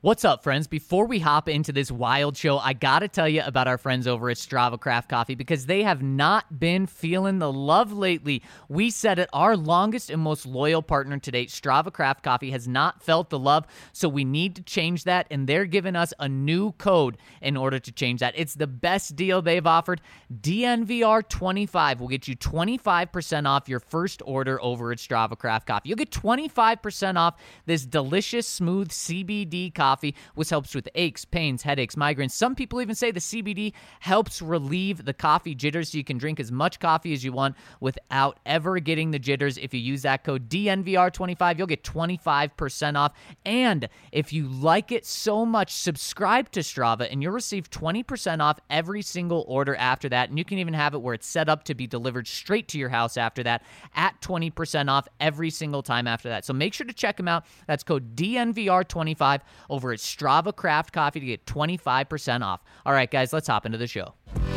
What's up, friends? Before we hop into this wild show, I gotta tell you about our friends over at Strava Craft Coffee because they have not been feeling the love lately. We said it, our longest and most loyal partner to date, Strava Craft Coffee, has not felt the love, so we need to change that, and they're giving us a new code in order to change that. It's the best deal they've offered. DNVR25 will get you 25% off your first order over at Strava Craft Coffee. You'll get 25% off this delicious, smooth CBD coffee, which helps with aches, pains, headaches, migraines. Some people even say the CBD helps relieve the coffee jitters, so you can drink as much coffee as you want without ever getting the jitters. If you use that code DNVR25, you'll get 25% off. And if you like it so much, subscribe to Strava, and you'll receive 20% off every single order after that. And you can even have it where it's set up to be delivered straight to your house after that at 20% off every single time after that. So make sure to check them out. That's code DNVR25 over at Strava Craft Coffee to get 25% off. All right, guys, let's hop into the show.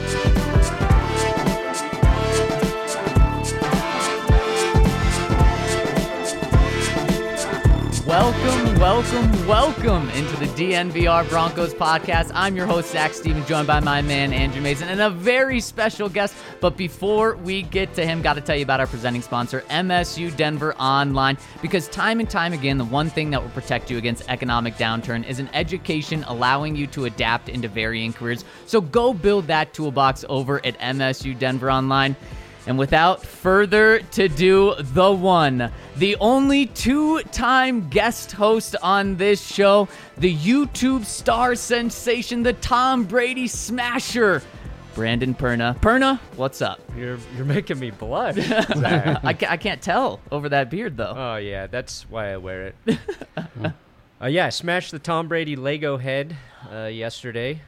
Welcome into the DNVR Broncos podcast. I'm your host, Zach Stevens, joined by my man, Andrew Mason, and a very special guest. But before we get to him, got to tell you about our presenting sponsor, MSU Denver Online, because time and time again, the one thing that will protect you against economic downturn is an education allowing you to adapt into varying careers. So go build that toolbox over at MSU Denver Online. And without further ado, the one, the only two-time guest host on this show, the YouTube star sensation, the Tom Brady smasher, Brandon Perna. Perna, what's up? You're making me blush. I can't tell over that beard, though. Oh, yeah, that's why I wear it. I smashed the Tom Brady Lego head yesterday.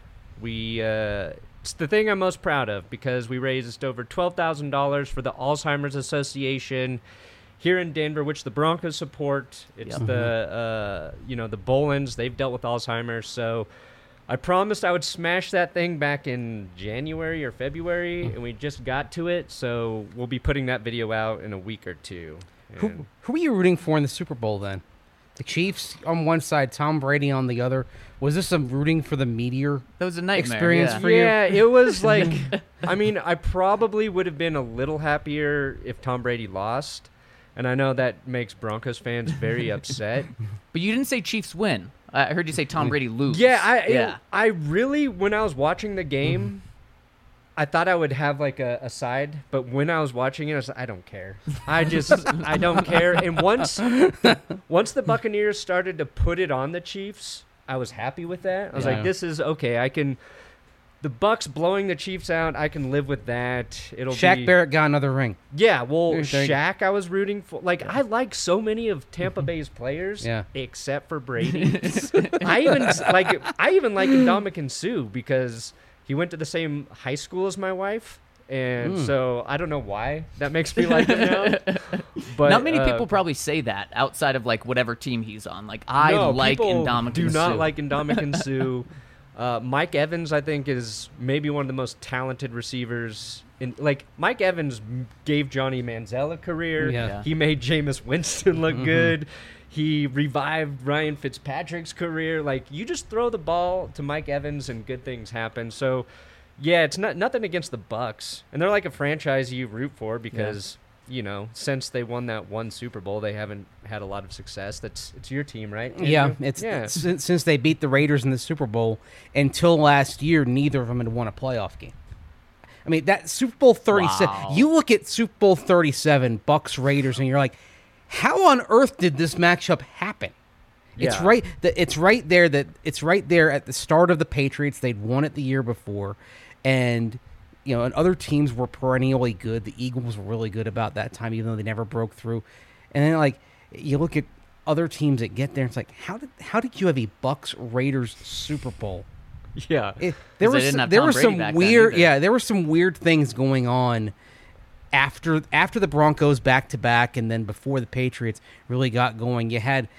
It's the thing I'm most proud of because we raised over $12,000 for the Alzheimer's Association here in Denver, which the Broncos support. It's the Bolins. They've dealt with Alzheimer's. So I promised I would smash that thing back in January or February, and we just got to it. So we'll be putting that video out in a week or two. Who are you rooting for in the Super Bowl then? The Chiefs on one side, Tom Brady on the other. Was this some rooting for the meteor that was a nightmare experience for you? Yeah, it was like, I mean, I probably would have been a little happier if Tom Brady lost. And I know that makes Broncos fans very upset. But you didn't say Chiefs win. I heard you say Tom Brady lose. I really, when I was watching the game, I thought I would have like a side, but when I was watching it, I was like, I don't care. I don't care. And once the Buccaneers started to put it on the Chiefs, I was happy with that. I was like, this is okay. The Bucks blowing the Chiefs out, I can live with that. Shaq Barrett got another ring. Yeah, well, Shaq I was rooting for. Like, I like so many of Tampa Bay's players, except for Brady. I even like Ndamukong Suh because he went to the same high school as my wife. And so I don't know why that makes me like him now. But not many people probably say that outside of like whatever team he's on. Like like Ndamukong Suh. Do not like Ndamukong Suh. Mike Evans, I think, is maybe one of the most talented receivers. Mike Evans gave Johnny Manziel a career. Yeah. He made Jameis Winston look good. He revived Ryan Fitzpatrick's career. Like, you just throw the ball to Mike Evans and good things happen. So, yeah, it's nothing against the Bucks. And they're like a franchise you root for because, since they won that one Super Bowl, they haven't had a lot of success. It's your team, right, Andrew? Yeah, since they beat the Raiders in the Super Bowl, until last year, neither of them had won a playoff game. I mean, that Super Bowl 37, you look at Super Bowl 37, Bucks Raiders, and you're like, how on earth did this matchup happen? Yeah. It's right there at the start of the Patriots. They'd won it the year before, and and other teams were perennially good. The Eagles were really good about that time, even though they never broke through. And then like you look at other teams that get there, it's like how did you have a Bucks Raiders Super Bowl? Yeah, there were some weird things going on after the Broncos back to back, and then before the Patriots really got going. You had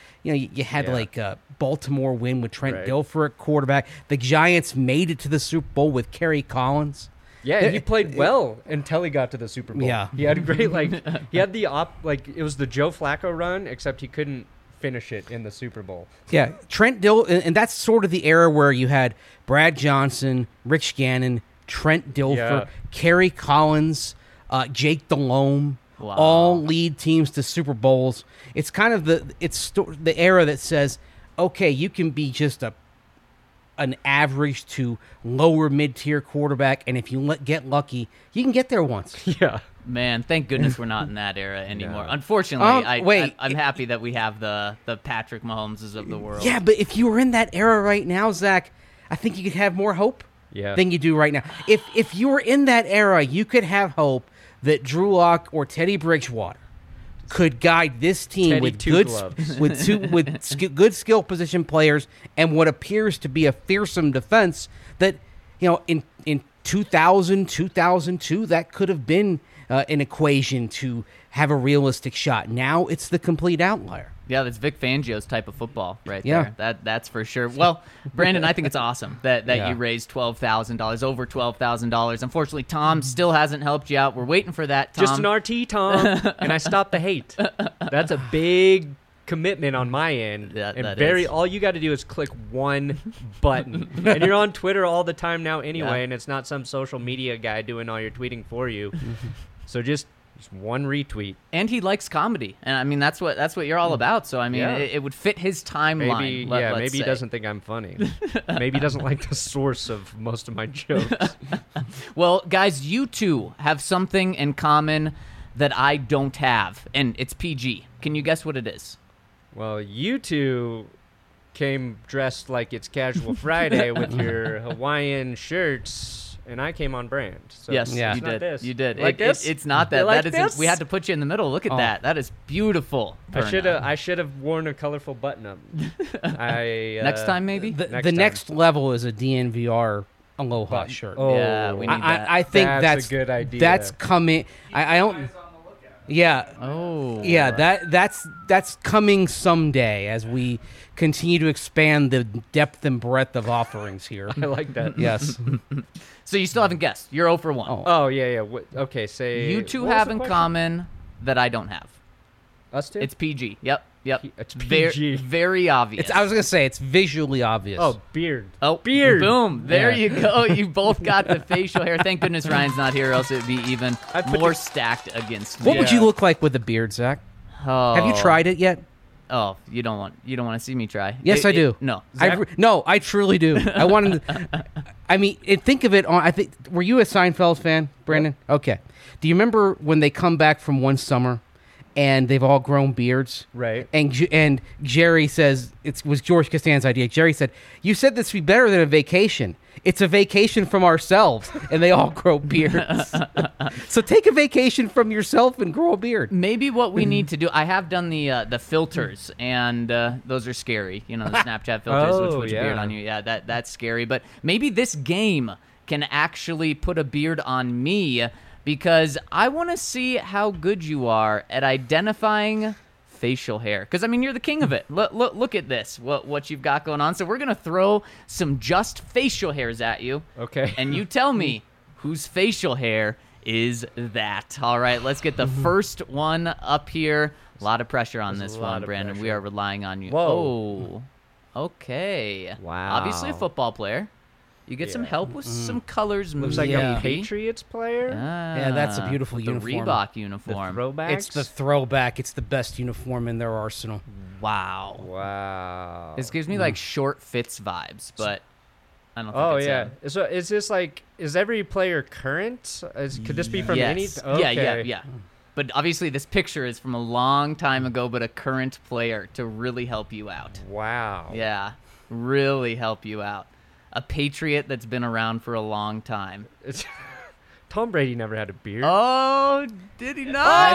Baltimore win with Trent Dilfer at quarterback. The Giants made it to the Super Bowl with Kerry Collins. Yeah, he played well until he got to the Super Bowl. Yeah, he had a great it was the Joe Flacco run, except he couldn't finish it in the Super Bowl. Yeah, Trent Dilfer, and that's sort of the era where you had Brad Johnson, Rich Gannon, Trent Dilfer, Yeah. Kerry Collins, Jake Delhomme, Wow. all lead teams to Super Bowls. It's kind of the era that says, okay, you can be just an average to lower mid-tier quarterback, and if you get lucky, you can get there once. Yeah. Man, thank goodness we're not in that era anymore. No. Unfortunately, wait. I'm happy that we have the Patrick Mahomeses of the world. Yeah, but if you were in that era right now, Zach, I think you could have more hope Yeah. than you do right now. If you were in that era, you could have hope that Drew Lock or Teddy Bridgewater could guide this team Teddy with Two good Gloves. good skill position players and what appears to be a fearsome defense that, in 2000, 2002, that could have been an equation to have a realistic shot. Now it's the complete outlier. Yeah, that's Vic Fangio's type of football right Yeah. there. That's for sure. Well, Brandon, I think it's awesome that Yeah. you raised $12,000, over $12,000. Unfortunately, Tom still hasn't helped you out. We're waiting for that, Tom. Just an RT, Tom, and I stopped the hate. That's a big commitment on my end. That And is. all you got to do is click one button. And you're on Twitter all the time now anyway, Yeah. and it's not some social media guy doing all your tweeting for you. So just one retweet. And he likes comedy, and I mean that's what you're all about. So I mean, Yeah. it would fit his timeline. Maybe let's he say. doesn't think I'm funny. Maybe he doesn't like the source of most of my jokes. Well, guys, you two have something in common that I don't have, and it's PG. Can you guess what it is? Well, you two came dressed like it's Casual Friday with your Hawaiian shirts, and I came on brand. So Yes, Yeah. you it's not did. this. You did. Like this? It's not You that. like That this? is. We had to put you in the middle. Look at Oh. that. That is beautiful. I should have worn a colorful button up. Next time, maybe. The Next the time. next level is a DNVR Aloha shirt. Oh, Yeah, we need that. I think That's a good idea. That's coming. I don't. Yeah. Oh. Yeah, that's coming someday as we continue to expand the depth and breadth of offerings here. I like that. Yes. So you still haven't guessed. You're 0 for 1. Oh. Oh yeah. Okay, say You two what was have the in question? common that I don't have. Us two. It's PG. Yep. It's Very, PG. very obvious. I was gonna say it's visually obvious. Oh, beard. Oh, beard. Boom. There Yeah. you go. You both got the facial hair. Thank goodness Ryan's not here, or else it would be even I put more the- stacked against me. What would Yeah. you look like with a beard, Zach? Oh. Have you tried it yet? Oh, you don't want to see me try. Yes, I do. No. I truly do. I wanted. I mean, think of it on. I think. Were you a Seinfeld fan, Brandon? Okay. Do you remember when they come back from one summer, and they've all grown beards? Right. And Jerry says it was George Costanza's idea. Jerry said, "You said this would be better than a vacation. It's a vacation from ourselves," and they all grow beards. So take a vacation from yourself and grow a beard. Maybe what we need to do. I have done the filters, and those are scary. You know, the Snapchat filters, Oh, which yeah. beard on you. Yeah, that's scary. But maybe this game can actually put a beard on me, because I want to see how good you are at identifying facial hair. Because I mean, you're the king of it. Look at this. What you've got going on. So we're gonna throw some just facial hairs at you. Okay. And you tell me whose facial hair is that. All right, let's get the first one up here. A lot of pressure on There's this a lot one, of Brandon. We pressure. are relying on you. Whoa. Oh, okay. Wow. Obviously a football player. You get some Yeah. help with some colors. Looks like Yeah. a Patriots player. Yeah, that's a beautiful the uniform. Reebok The uniform. throwbacks. It's the throwback. It's the best uniform in their arsenal. Wow. Wow. This gives me like short fits vibes, but I don't think Oh it's yeah. So is this like, is every player current? Could this be from any? yes. Okay. Yeah. But obviously this picture is from a long time ago, but a current player to really help you out. Wow. Yeah, really help you out. A Patriot that's been around for a long time. It's Tom Brady never had a beard. Oh, did he not?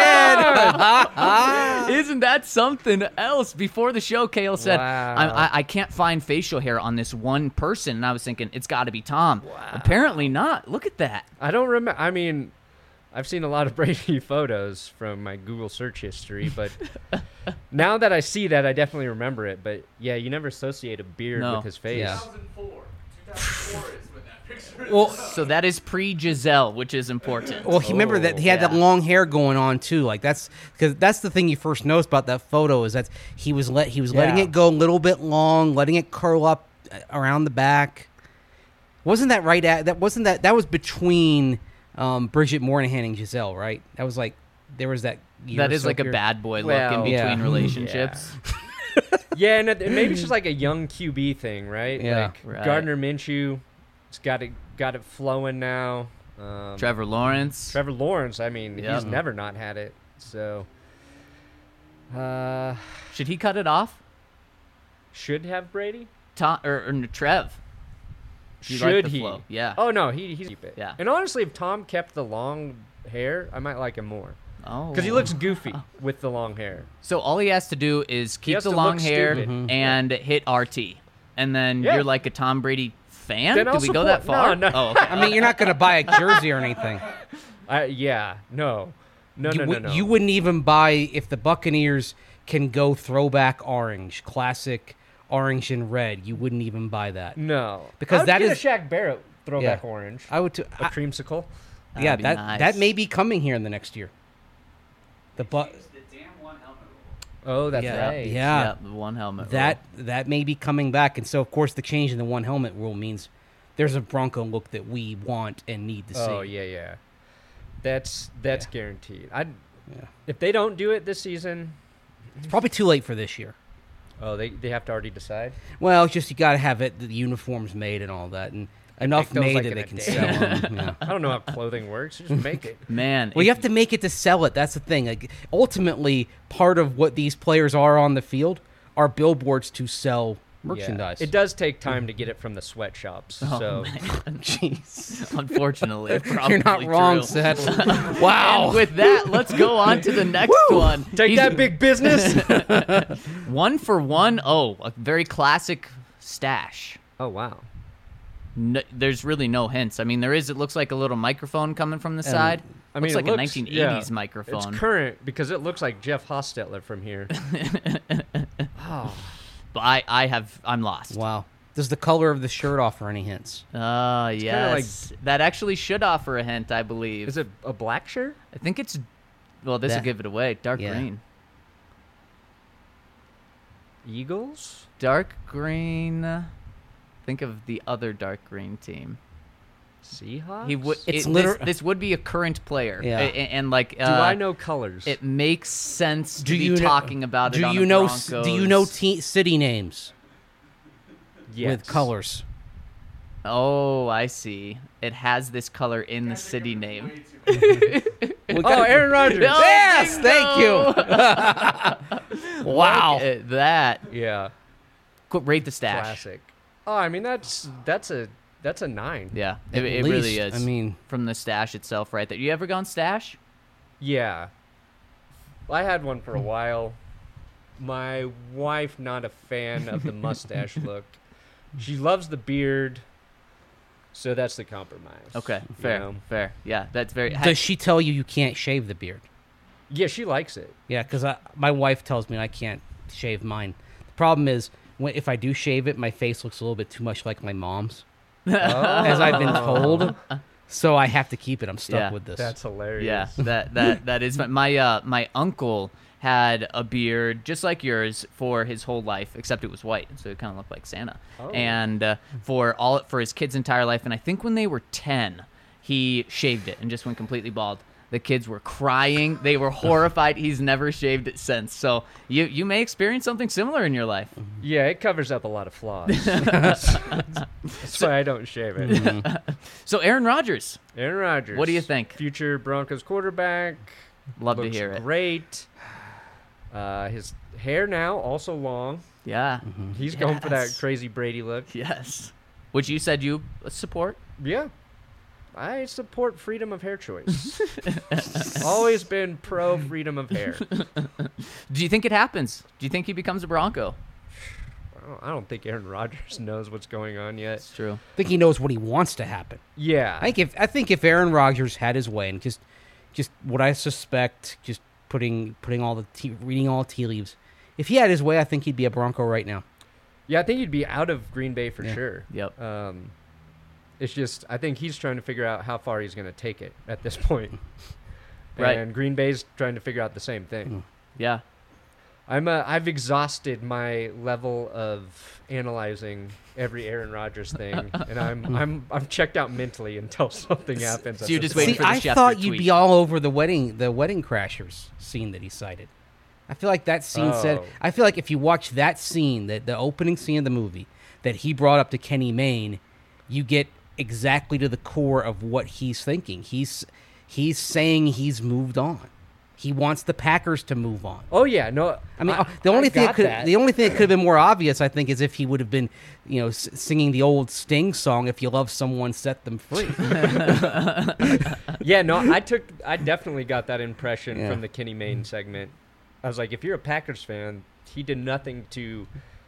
Yes, he did. Isn't that something else? Before the show, Kale said, Wow. I can't find facial hair on this one person. And I was thinking, it's got to be Tom. Apparently not. Look at that. I don't remember. I mean, I've seen a lot of Brady photos from my Google search history, but now that I see that, I definitely remember it. But yeah, you never associate a beard No. with his face. Yeah. 2004. 2004 is when that picture Well, So that is pre-Giselle, which is important. well, he remember that he had that yeah. long hair going on too. Like that's because that's the thing you first notice about that photo is that he was letting Yeah. it go a little bit long, letting it curl up around the back. Wasn't that right? That was between Bridget Moynihan and Giselle, right? That was like there was that. Year That or is so like a period. bad boy look Well, in between yeah. relationships. Yeah, and maybe it's just like a young QB thing, right? Yeah. Like Right. Gardner Minshew, it's got it flowing now. Trevor Lawrence. Trevor Lawrence, I mean, Yep. he's never not had it. So, Should he cut it off? should have Brady. Tom or Trev? You like Should the he? flow, yeah. Oh no, he's keep it. Yeah. And honestly, if Tom kept the long hair, I might like him more Oh. because he looks goofy with the long hair. So all he has to do is keep has the to long look hair stupid. Mhm. and hit RT, and then Yeah. you're like a Tom Brady fan. Then Did I'll we go that support- far? no. Oh, okay. I mean, you're not going to buy a jersey or anything. Yeah, no. You wouldn't even buy if the Buccaneers can go throwback orange, classic orange and red. You wouldn't even buy that. No, Because I would that get is- a Shaq Barrett throwback Yeah. orange, I would. a creamsicle. Yeah, That'd be that nice. that may be coming here in the next year. The Oh, that's yeah, right. yeah. Yeah, the one helmet. That may be coming back, and so of course the change in the one helmet rule means there's a Bronco look that we want and need to see. Oh yeah. That's guaranteed. Yeah. If they don't do it this season, It's probably too late for this year. oh, they have to already decide. Well, it's just you got to have the uniforms made and all that, and enough goes made like that in they a can day. sell them. Yeah. I don't know how clothing works. Just make it. Man, Well, you have to make it to sell it. That's the thing. Like ultimately, part of what these players are on the field are billboards to sell merchandise. Yeah. It does take time to get it from the sweatshops. Oh, so man. Jeez. Unfortunately, probably You're not wrong, true. Seth. Wow. And with that, let's go on to the next one. take He's- that, big business. 1 for 1. Oh, a very classic stash. Oh wow. No, there's really no hints. I mean, there is. It looks like a little microphone coming from the side. I mean, looks it like looks, a 1980s yeah, microphone. It's current because it looks like Jeff Hostetler from here. Oh, But I'm lost. Wow. Does the color of the shirt offer any hints? Yes. That actually should offer a hint, I believe. is it a black shirt? I think it's. Well, this will That- give it away. Dark yeah. green. Eagles? Dark green. Think of the other dark green team. Seahawks? He would. It's This would be a current player. Yeah. And like. Do I know colors? It makes sense to Do be you know- talking about it Do on you the know? Broncos. Do you know city names yes. with colors? Oh, I see. It has this color in the city name. Oh, Aaron Rodgers. Oh, Yes, bingo! thank you. Wow. Look at that. Yeah. Rate the stash. Classic. Oh, I mean that's a 9. Yeah, At it really least, is. I mean, from the stash itself, right there. You ever gone stash? Yeah. I had one for a while. My wife not a fan of the mustache look. She loves the beard. So that's the compromise. Okay, you fair, know? fair. Yeah, that's very. does she tell you can't shave the beard? Yeah, she likes it. Yeah, because my wife tells me I can't shave mine. The problem is, if I do shave it, my face looks a little bit too much like my mom's, as I've been told. So I have to keep it. I'm stuck Yeah, with this. That's hilarious. Yeah, that is my uncle had a beard just like yours for his whole life, except it was white, so it kind of looked like Santa. Oh. And for his kids' entire life, and I think when they were 10, he shaved it and just went completely bald. The kids were crying; they were horrified. He's never shaved it since. So you may experience something similar in your life. Yeah, it covers up a lot of flaws. That's why I don't shave it. So Aaron Rodgers, Aaron Rodgers. What do you think? Future Broncos quarterback. love to Looks hear it. great. His hair now also long. Yeah, He's going for that Yes. crazy Brady look. yes. Which you said you support. Yeah. I support freedom of hair choice. Always been pro freedom of hair. Do you think it happens? Do you think he becomes a Bronco? I don't think Aaron Rodgers knows what's going on yet. It's true. I think he knows what he wants to happen. Yeah. I think if Aaron Rodgers had his way and just what I suspect, just reading all the tea leaves, if he had his way, I think he'd be a Bronco right now. Yeah, I think he'd be out of Green Bay for Yeah. sure. Yep. It's just I think he's trying to figure out how far he's going to take it at this point. Right. And Green Bay's trying to figure out the same thing. Yeah. I've exhausted my level of analyzing every Aaron Rodgers thing, and I'm checked out mentally until something happens. So you're just point. waiting for the I Schefter thought you'd tweet. be all over the wedding crashers scene that he cited. I feel like that scene said. Oh. I feel like if you watch that scene, the opening scene of the movie that he brought up to Kenny Mayne, you get exactly to the core of what he's thinking. He's saying he's moved on. He wants the Packers to move on. Oh yeah, no. I mean, the only thing that could have been more obvious, I think, is if he would have been, singing the old Sting song, "If you love someone, set them free." Yeah, no. I definitely got that impression Yeah. from the Kenny Mayne segment. I was like, if you're a Packers fan, he did nothing to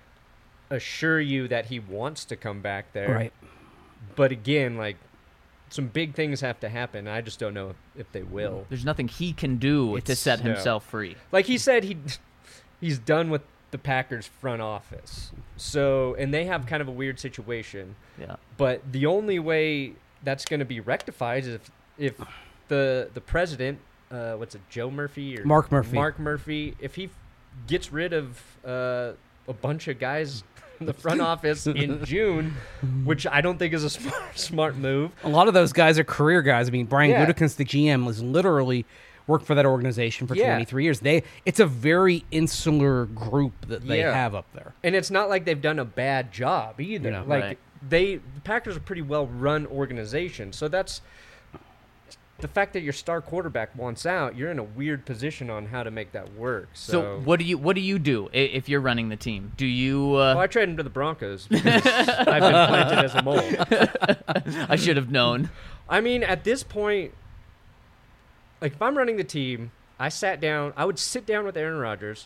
assure you that he wants to come back there. Right. But again, like, some big things have to happen. I just don't know if they will. There's nothing he can do to It's- set no. himself free. Like he said, he's done with the Packers front office. So, and they have kind of a weird situation. Yeah. But the only way that's going to be rectified is if the president, what's it, Joe Murphy or Mark Murphy. Mark Murphy, if he gets rid of a bunch of guys in the front office in June, which I don't think is a smart move. A lot of those guys are career guys. I mean, Brian Yeah. Gutekunst, the GM, has literally worked for that organization for Yeah. 23 years. It's a very insular group that they Yeah. have up there. And it's not like they've done a bad job either. No. Like Right. the Packers are a pretty well run organization. So that's the fact that your star quarterback wants out, you're in a weird position on how to make that work. So what do you do if you're running the team? Do you? Well, I traded him to the Broncos because I've been planted as a mole. I should have known. I mean, at this point, like if I'm running the team, I would sit down with Aaron Rodgers,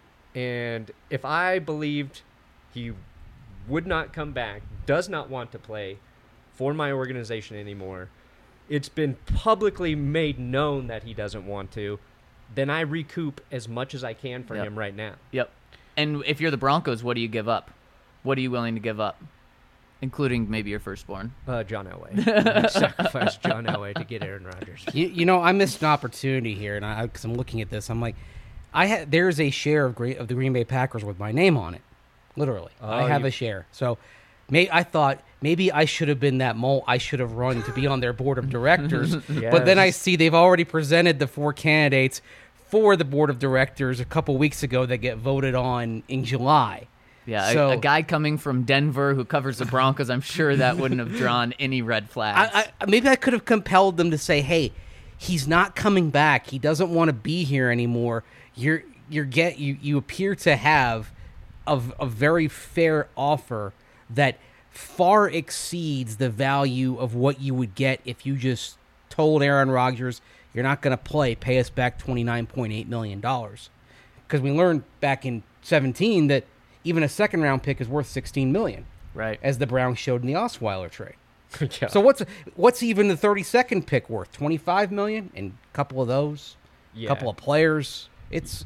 and if I believed he would not come back, does not want to play for my organization anymore, it's been publicly made known that he doesn't want to, then I recoup as much as I can for Yep. him right now. Yep. And if you're the Broncos, what do you give up? What are you willing to give up, including maybe your firstborn? John Elway. I sacrificed John Elway to get Aaron Rodgers. I missed an opportunity here, and because I'm looking at this, I'm like, there's a share of the Green Bay Packers with my name on it, literally. Oh, I have a share. So, I thought maybe I should have been that mole. I should have run to be on their board of directors. But then I see they've already presented the 4 candidates for the board of directors a couple weeks ago that get voted on in July. Yeah, So- a guy coming from Denver who covers the Broncos, I'm sure that wouldn't have drawn any red flags. Maybe I could have compelled them to say, "Hey, he's not coming back. He doesn't want to be here anymore. You appear to have a very fair offer that far exceeds the value of what you would get if you just told Aaron Rodgers you're not going to play. Pay us back $29.8 million." Because we learned back in 2017 that even a second-round pick is worth $16 million, right. as the Browns showed in the Osweiler trade. Yeah. So what's even the 32nd pick worth? $25 million, and a couple of those, Yeah. couple of players. It's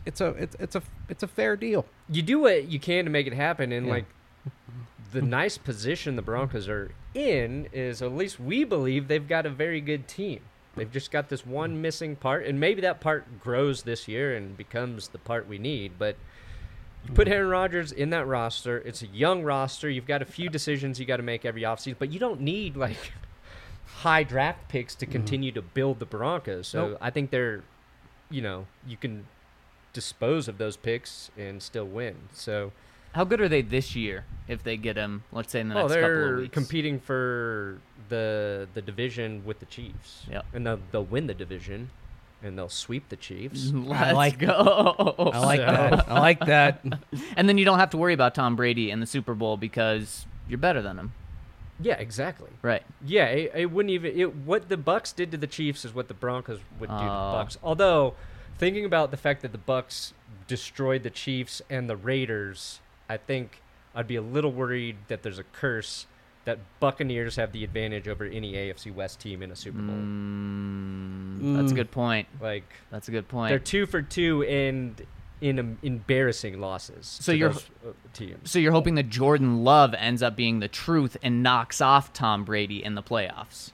a fair deal. You do what you can to make it happen, and Yeah. like the nice position the Broncos are in is at least we believe they've got a very good team. They've just got this one missing part, and maybe that part grows this year and becomes the part we need. But you put Aaron Rodgers in that roster. It's a young roster. You've got a few decisions you got to make every offseason, but you don't need like high draft picks to continue to build the Broncos. So Nope. I think they're, you can dispose of those picks and still win. So How good are they this year if they get him, let's say, in the next couple they're of weeks? competing for the division with the Chiefs. Yep. And they'll win the division, and they'll sweep the Chiefs. Let's like- go. I like that. I like that. And then you don't have to worry about Tom Brady in the Super Bowl because you're better than him. Yeah, exactly. Right. Yeah, it wouldn't even. What the Bucks did to the Chiefs is what the Broncos would do to the Oh. Bucks. Although, thinking about the fact that the Bucks destroyed the Chiefs and the Raiders, I think I'd be a little worried that there's a curse that Buccaneers have the advantage over any AFC West team in a Super Bowl. That's a good point. Like That's a good they're point. 2 for 2, and in embarrassing losses. So to you're- those, teams. So you're hoping that Jordan Love ends up being the truth and knocks off Tom Brady in the playoffs.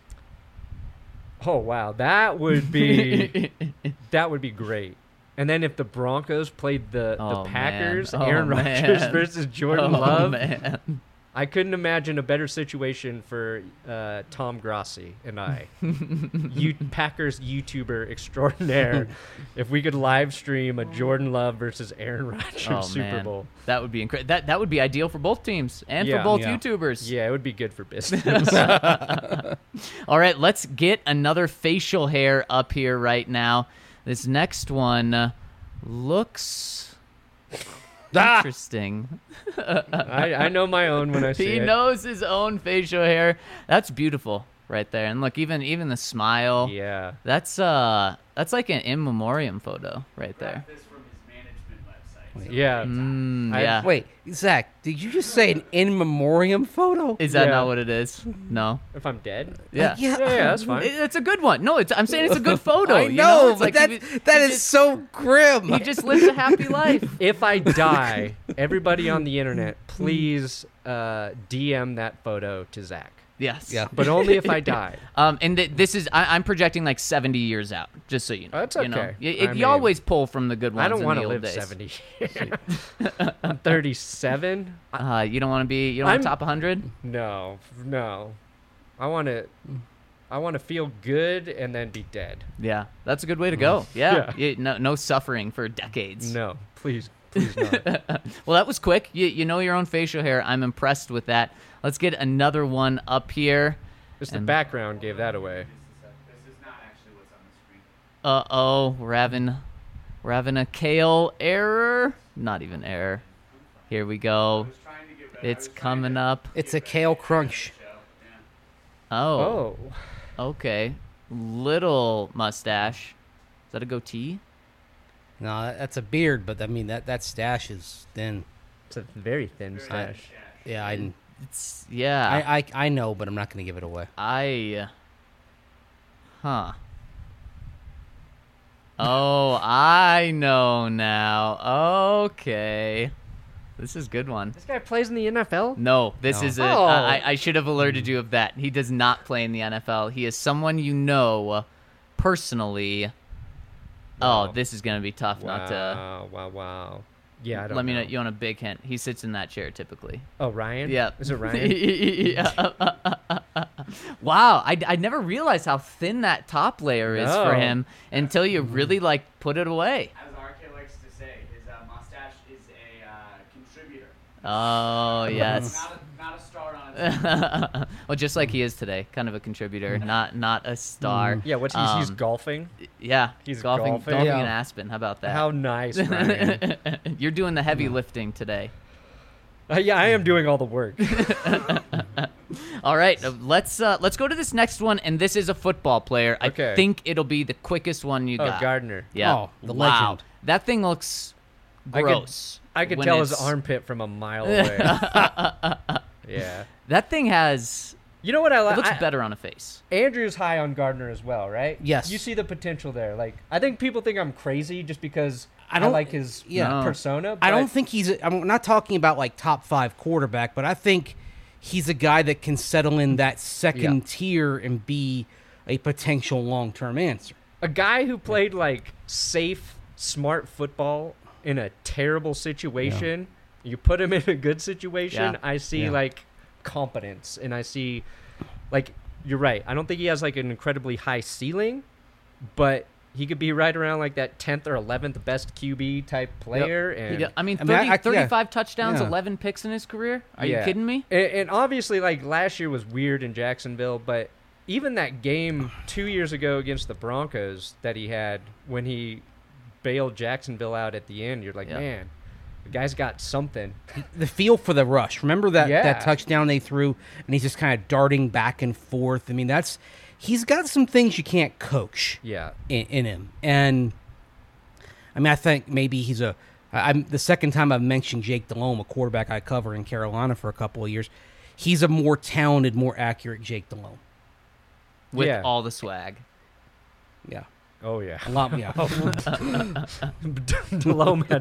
Oh wow, that would be great. And then if the Broncos played the Oh, Packers, man. Oh, Aaron Rodgers man. versus Jordan Oh, Love, man. I couldn't imagine a better situation for Tom Grossi and I, Packers YouTuber extraordinaire, if we could live stream a Jordan Love versus Aaron Rodgers Oh, Super man. Bowl. That would be incredible. That would be ideal for both teams and for Yeah. both Yeah. YouTubers. Yeah, it would be good for business. All right, let's get another facial hair up here right now. This next one looks interesting. I know my own when I see He it. knows his own facial hair. That's beautiful right there. And look, even the smile. Yeah. That's like an in memoriam photo right there. This from his management website. Yeah. Yeah. Wait, Zach, did you just say an in memoriam photo? Is that Yeah. not what it is? No. If I'm dead? Yeah. Yeah, that's fine. It's a good one. No, I'm saying it's a good photo. I you know, It's but like that is so grim. he just lives a happy life. If I die, everybody on the internet, please DM that photo to Zach. Yes. Yeah. But only if I die. And this is I'm projecting like 70 years out, just so you know. Oh, that's You know? okay. You I you mean, always pull from the good ones. I don't want to live days. 70 years. I'm 37. You don't want to be. You don't want I'm- top 100. No. I want to feel good and then be dead. Yeah, that's a good way to go. Yeah. Yeah. No suffering for decades. No, please not. Well, that was quick. You know your own facial hair. I'm impressed with that. Let's get another one up here. Just the And- background gave that away. This is not actually what's on the screen. Uh-oh, we're having a Kale error. Not even error. Here we go. I was trying to get better. It's coming up. It's a kale crunch. Oh, Oh. okay. Little mustache. Is that a goatee? No, that's a beard, but I mean that stash is thin. It's a very thin stash. Yeah, I know, but I'm not going to give it away. Huh. Oh, I know now. Okay. This is a good one. This guy plays in the NFL? No, this No. is Oh. I should have alerted you of that. He does not play in the NFL. He is someone you know personally. Wow. Oh, this is going to be tough not to. Wow. Yeah, I don't Let me know. know. You want a big hint? He sits in that chair typically. Oh, Ryan? Yeah. Is it Ryan? Yeah. Wow, I never realized how thin that top layer is for No. him until you really like put it away. As RK likes to say, his mustache is a contributor. Oh yes. Not a star on its Well, just like he is today, kind of a contributor, not a star. Yeah, what's he's golfing? Yeah, He's golfing golfing? in Yeah. Aspen. How about that? How nice, Ryan. You're doing the heavy lifting today. Yeah, I am doing all the work. All right, let's go to this next one, and this is a football player. I Okay. think it'll be the quickest one you Oh, got. Gardner. Yeah. Oh, the wow. legend. That thing looks gross. I could when tell his it's- armpit from a mile away. Yeah. That thing has. You know what I It like? looks better on a face. Andrew's high on Gardner as well, right? Yes. You see the potential there. Like, I think people think I'm crazy just because I don't- like his yeah. No. persona. I don't but- think I'm not talking about like top 5 quarterback, but I think he's a guy that can settle in that second tier and be a potential long-term answer. a guy who played like safe, smart football in a terrible situation. You put him in a good situation. Yeah. I see Yeah. like competence, and I see like you're right. I don't think he has like an incredibly high ceiling, but he could be right around like that 10th or 11th best QB type player. And I mean, I mean, 35 touchdowns, Yeah. 11 picks in his career. Are Yeah. you kidding me? And obviously, like last year was weird in Jacksonville, but even that game 2 years ago against the Broncos that he had when he bailed Jacksonville out at the end, you're like, Yeah. man, the guy's got something. The feel for the rush. Remember that Yeah. touchdown they threw, and he's just kind of darting back and forth. I mean, he's got some things you can't coach Yeah. in him. And I mean, I think maybe he's I'm the second time I've mentioned Jake Delhomme, a quarterback I cover in Carolina for a couple of years. He's a more talented, more accurate Jake Delhomme. With Yeah. all the swag. Yeah. Oh yeah. A lot, yeah. Delhomme had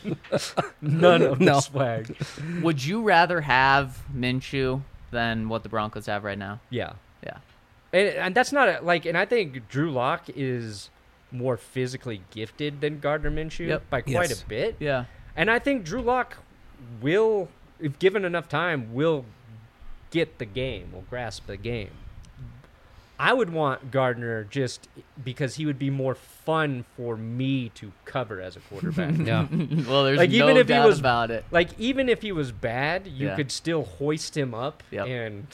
none of No. the swag. Would you rather have Minshew than what the Broncos have right now? Yeah. Yeah. And that's not and I think Drew Lock is more physically gifted than Gardner Minshew Yep. by quite Yes. a bit. Yeah. And I think Drew Lock will, if given enough time, will get the game, will grasp the game. I would want Gardner just because he would be more fun for me to cover as a quarterback. Yeah. Well, there's Like, no even if he doubt was- about it. Like, even if he was bad, you Yeah. could still hoist him up Yep. and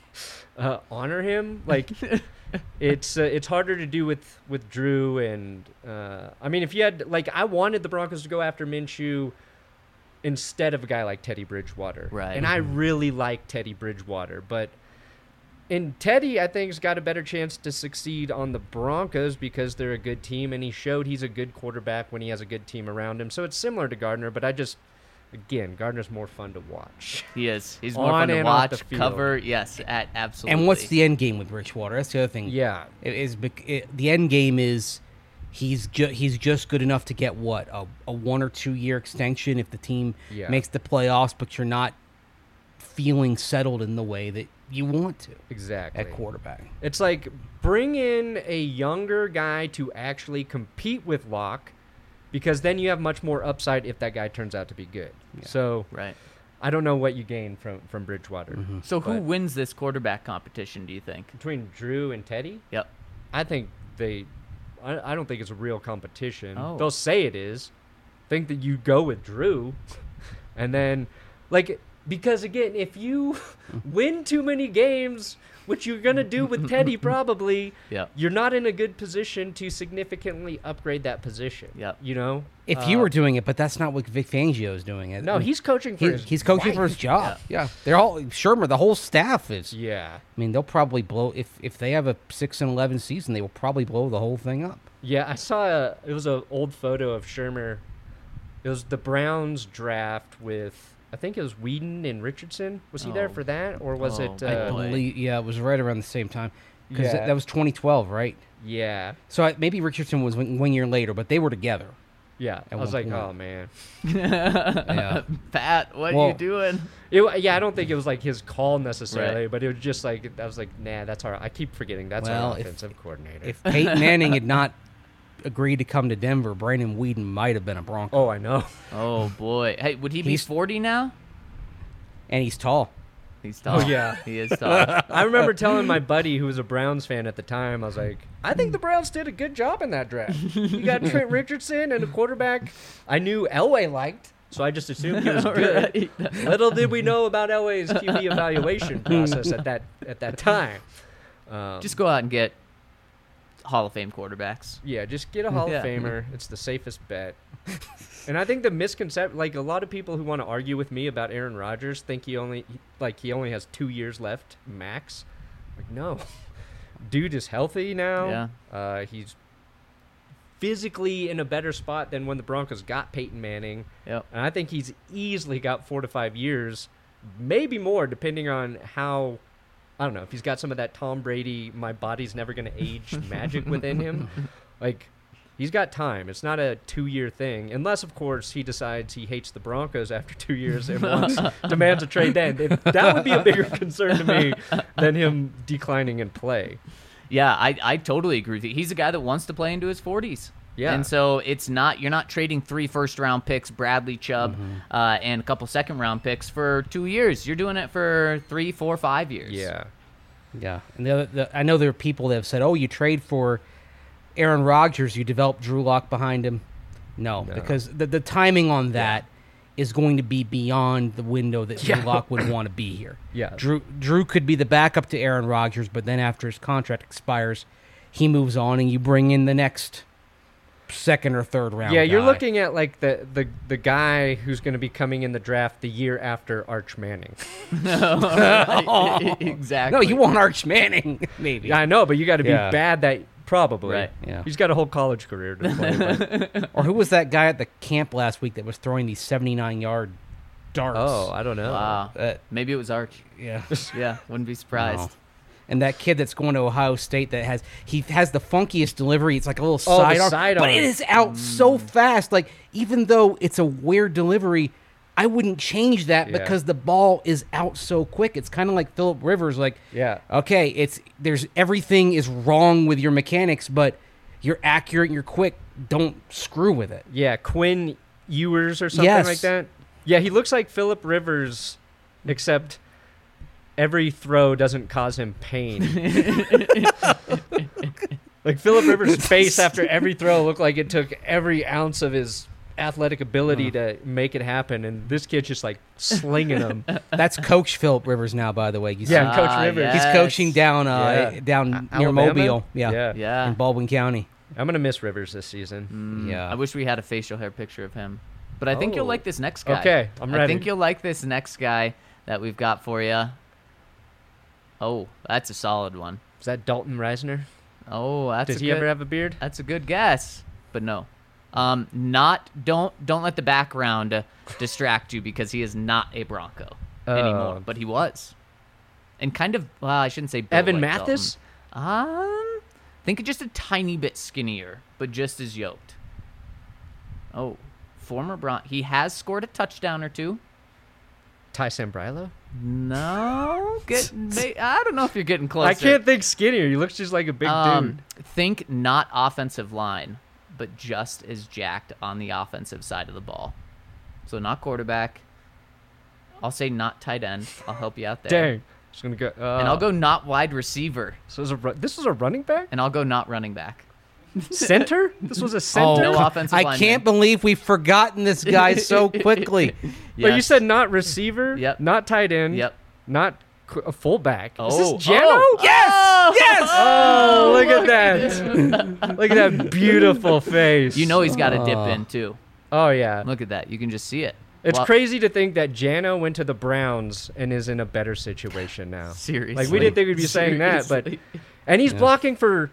honor him. Like, it's harder to do with Drew. And, I mean, if you had, like, I wanted the Broncos to go after Minshew instead of a guy like Teddy Bridgewater. Right. And I really like Teddy Bridgewater. But Teddy, I think, has got a better chance to succeed on the Broncos because they're a good team, and he showed he's a good quarterback when he has a good team around him. So it's similar to Gardner, but again, Gardner's more fun to watch. He is. He's more On fun to and off the watch, field. cover. Yes, absolutely. And what's the end game with Bridgewater? That's the other thing. Yeah. The end game is he's just good enough to get what a 1 or 2 year extension if the team Yeah. makes the playoffs, but you're not feeling settled in the way that you want to Exactly. at quarterback. It's like bring in a younger guy to actually compete with Locke, because then you have much more upside if that guy turns out to be good. So Right. I don't know what you gain from Bridgewater. So who But- wins this quarterback competition, do you think? Between Drew and Teddy, Yep. I think I don't think it's a real competition. Oh. They'll say it is. Think that you go with Drew, and then because again, if you win too many games, which you're gonna do with Teddy probably, Yep. you're not in a good position to significantly upgrade that position. Yep. You know, If you were doing it, but that's not what Vic Fangio is doing. It. no, he's coaching for he's coaching for his wife. job. Yeah. They're all Shermer. The whole staff is. Yeah, I mean, they'll probably blow if they have a 6-11 season. They will probably blow the whole thing up. yeah. I saw it was an old photo of Shermer. It was the Browns draft with. I think it was Whedon and Richardson. Was he there Oh. for that, or was Oh, it? boy. Yeah, it was right around the same time because Yeah. that was 2012, right? Yeah, So maybe Richardson was 1 year later, but they were together. yeah. I At was one like, point. oh man. Yeah. Pat, what are Well- you doing? Yeah, I don't think it was like his call necessarily, Right. but it was just like I was like, nah, that's our. I keep forgetting that's Well, our if- offensive coordinator. If Peyton Manning had not agreed to come to Denver, Brandon Whedon might have been a Bronco. oh, I know. Oh boy. Hey, would he be He's- 40 now? And he's tall. He's tall. yeah. He is tall. I remember telling my buddy who was a Browns fan at the time, I was like, I think the Browns did a good job in that draft. You got Trent Richardson and a quarterback I knew Elway liked, so I just assumed he was good. Right. Little did we know about Elway's QB evaluation process at that time. Just go out and get Hall of Fame quarterbacks. Yeah, just get a Hall Yeah. of Famer. It's the safest bet. And I think the misconception, like a lot of people who want to argue with me about Aaron Rodgers think he only has 2 years left max. Like, no, dude is healthy now. Yeah. He's physically in a better spot than when the Broncos got Peyton Manning. Yep. And I think he's easily got 4 to 5 years, maybe more, depending on how. I don't know if he's got some of that Tom Brady, my body's never going to age magic within him. Like, he's got time. It's not a 2-year thing. Unless, of course, he decides he hates the Broncos after 2 years and demands a trade then. That would be a bigger concern to me than him declining in play. Yeah, I totally agree with you. He's a guy that wants to play into his 40s. Yeah. And so you're not trading 3 first-round picks, Bradley Chubb, and a couple second-round picks for 2 years. You're doing it for 3, 4, 5 years. Yeah. Yeah. And I know there are people that have said, oh, you trade for Aaron Rodgers, you develop Drew Lock behind him. No, because the timing on that is going to be beyond the window that Drew Lock would want to be here. Yeah. Drew could be the backup to Aaron Rodgers, but then after his contract expires, he moves on and you bring in the next second or third round Yeah, you're guy. looking at like the guy who's going to be coming in the draft the year after Arch Manning. Exactly. No, you want Arch Manning, maybe. Yeah, I know, but you got to be Yeah. bad that probably. Right. Yeah. He's got a whole college career to play. But, Or who was that guy at the camp last week that was throwing these 79-yard darts? oh, I don't know. Wow. Uh, Maybe it was Arch. yeah. Yeah, wouldn't be surprised. And that kid that's going to Ohio State that has the funkiest delivery. It's like a little Oh, the sidearm, sidearm. but it is out so fast. Like even though it's a weird delivery, I wouldn't change that Yeah. because the ball is out so quick. It's kind of like Phillip Rivers. Like Yeah. okay, everything is wrong with your mechanics, but you're accurate and you're quick. Don't screw with it. Yeah, Quinn Ewers or something Yes. like that. Yeah, he looks like Phillip Rivers, except every throw doesn't cause him pain. Like Phillip Rivers' face after every throw looked like it took every ounce of his athletic ability to make it happen, and this kid's just like slinging them. That's Coach Phillip Rivers now, by the way. You see Yeah, him? Coach Rivers. yes. He's coaching down Yeah. down near Alabama? Mobile. Yeah. Yeah. In Baldwin County. I'm gonna miss Rivers this season. Yeah. I wish we had a facial hair picture of him. But I think you'll Oh. like this next guy. Okay, I'm I ready. think you'll like this next guy that we've got for you. Oh, that's a solid one. Is that Dalton Reisner? Oh, that's Did a he good, ever have a beard? That's a good guess, but no. Don't let the background distract you because he is not a Bronco anymore, but he was. And kind of, well, I shouldn't say built Evan like Mathis? Dalton. Think just a tiny bit skinnier, but just as yoked. Oh, former he has scored a touchdown or two. Ty Sambrailo? No, I don't know if you're getting closer. I can't think skinnier. He looks just like a big dude. Think not offensive line, but just as jacked on the offensive side of the ball. So not quarterback. I'll say not tight end. I'll help you out there. Dang. Just gonna go. And I'll go not wide receiver. So this was a running back? And I'll go not running back. Center? This was a center? No offensive I lineman. can't believe we've forgotten this guy so quickly. But you Yes. said not receiver, Yep. not tight end, Yep. not a fullback. Is Oh. this Jano? Oh. Yes! Yes! Oh, look at that. Look at that beautiful face. You know he's got to dip in too. Oh, yeah. Look at that. You can just see it. It's Well, crazy to think that Jano went to the Browns and is in a better situation now. Seriously. Like, we didn't think we'd be saying that, but... Seriously. And he's blocking for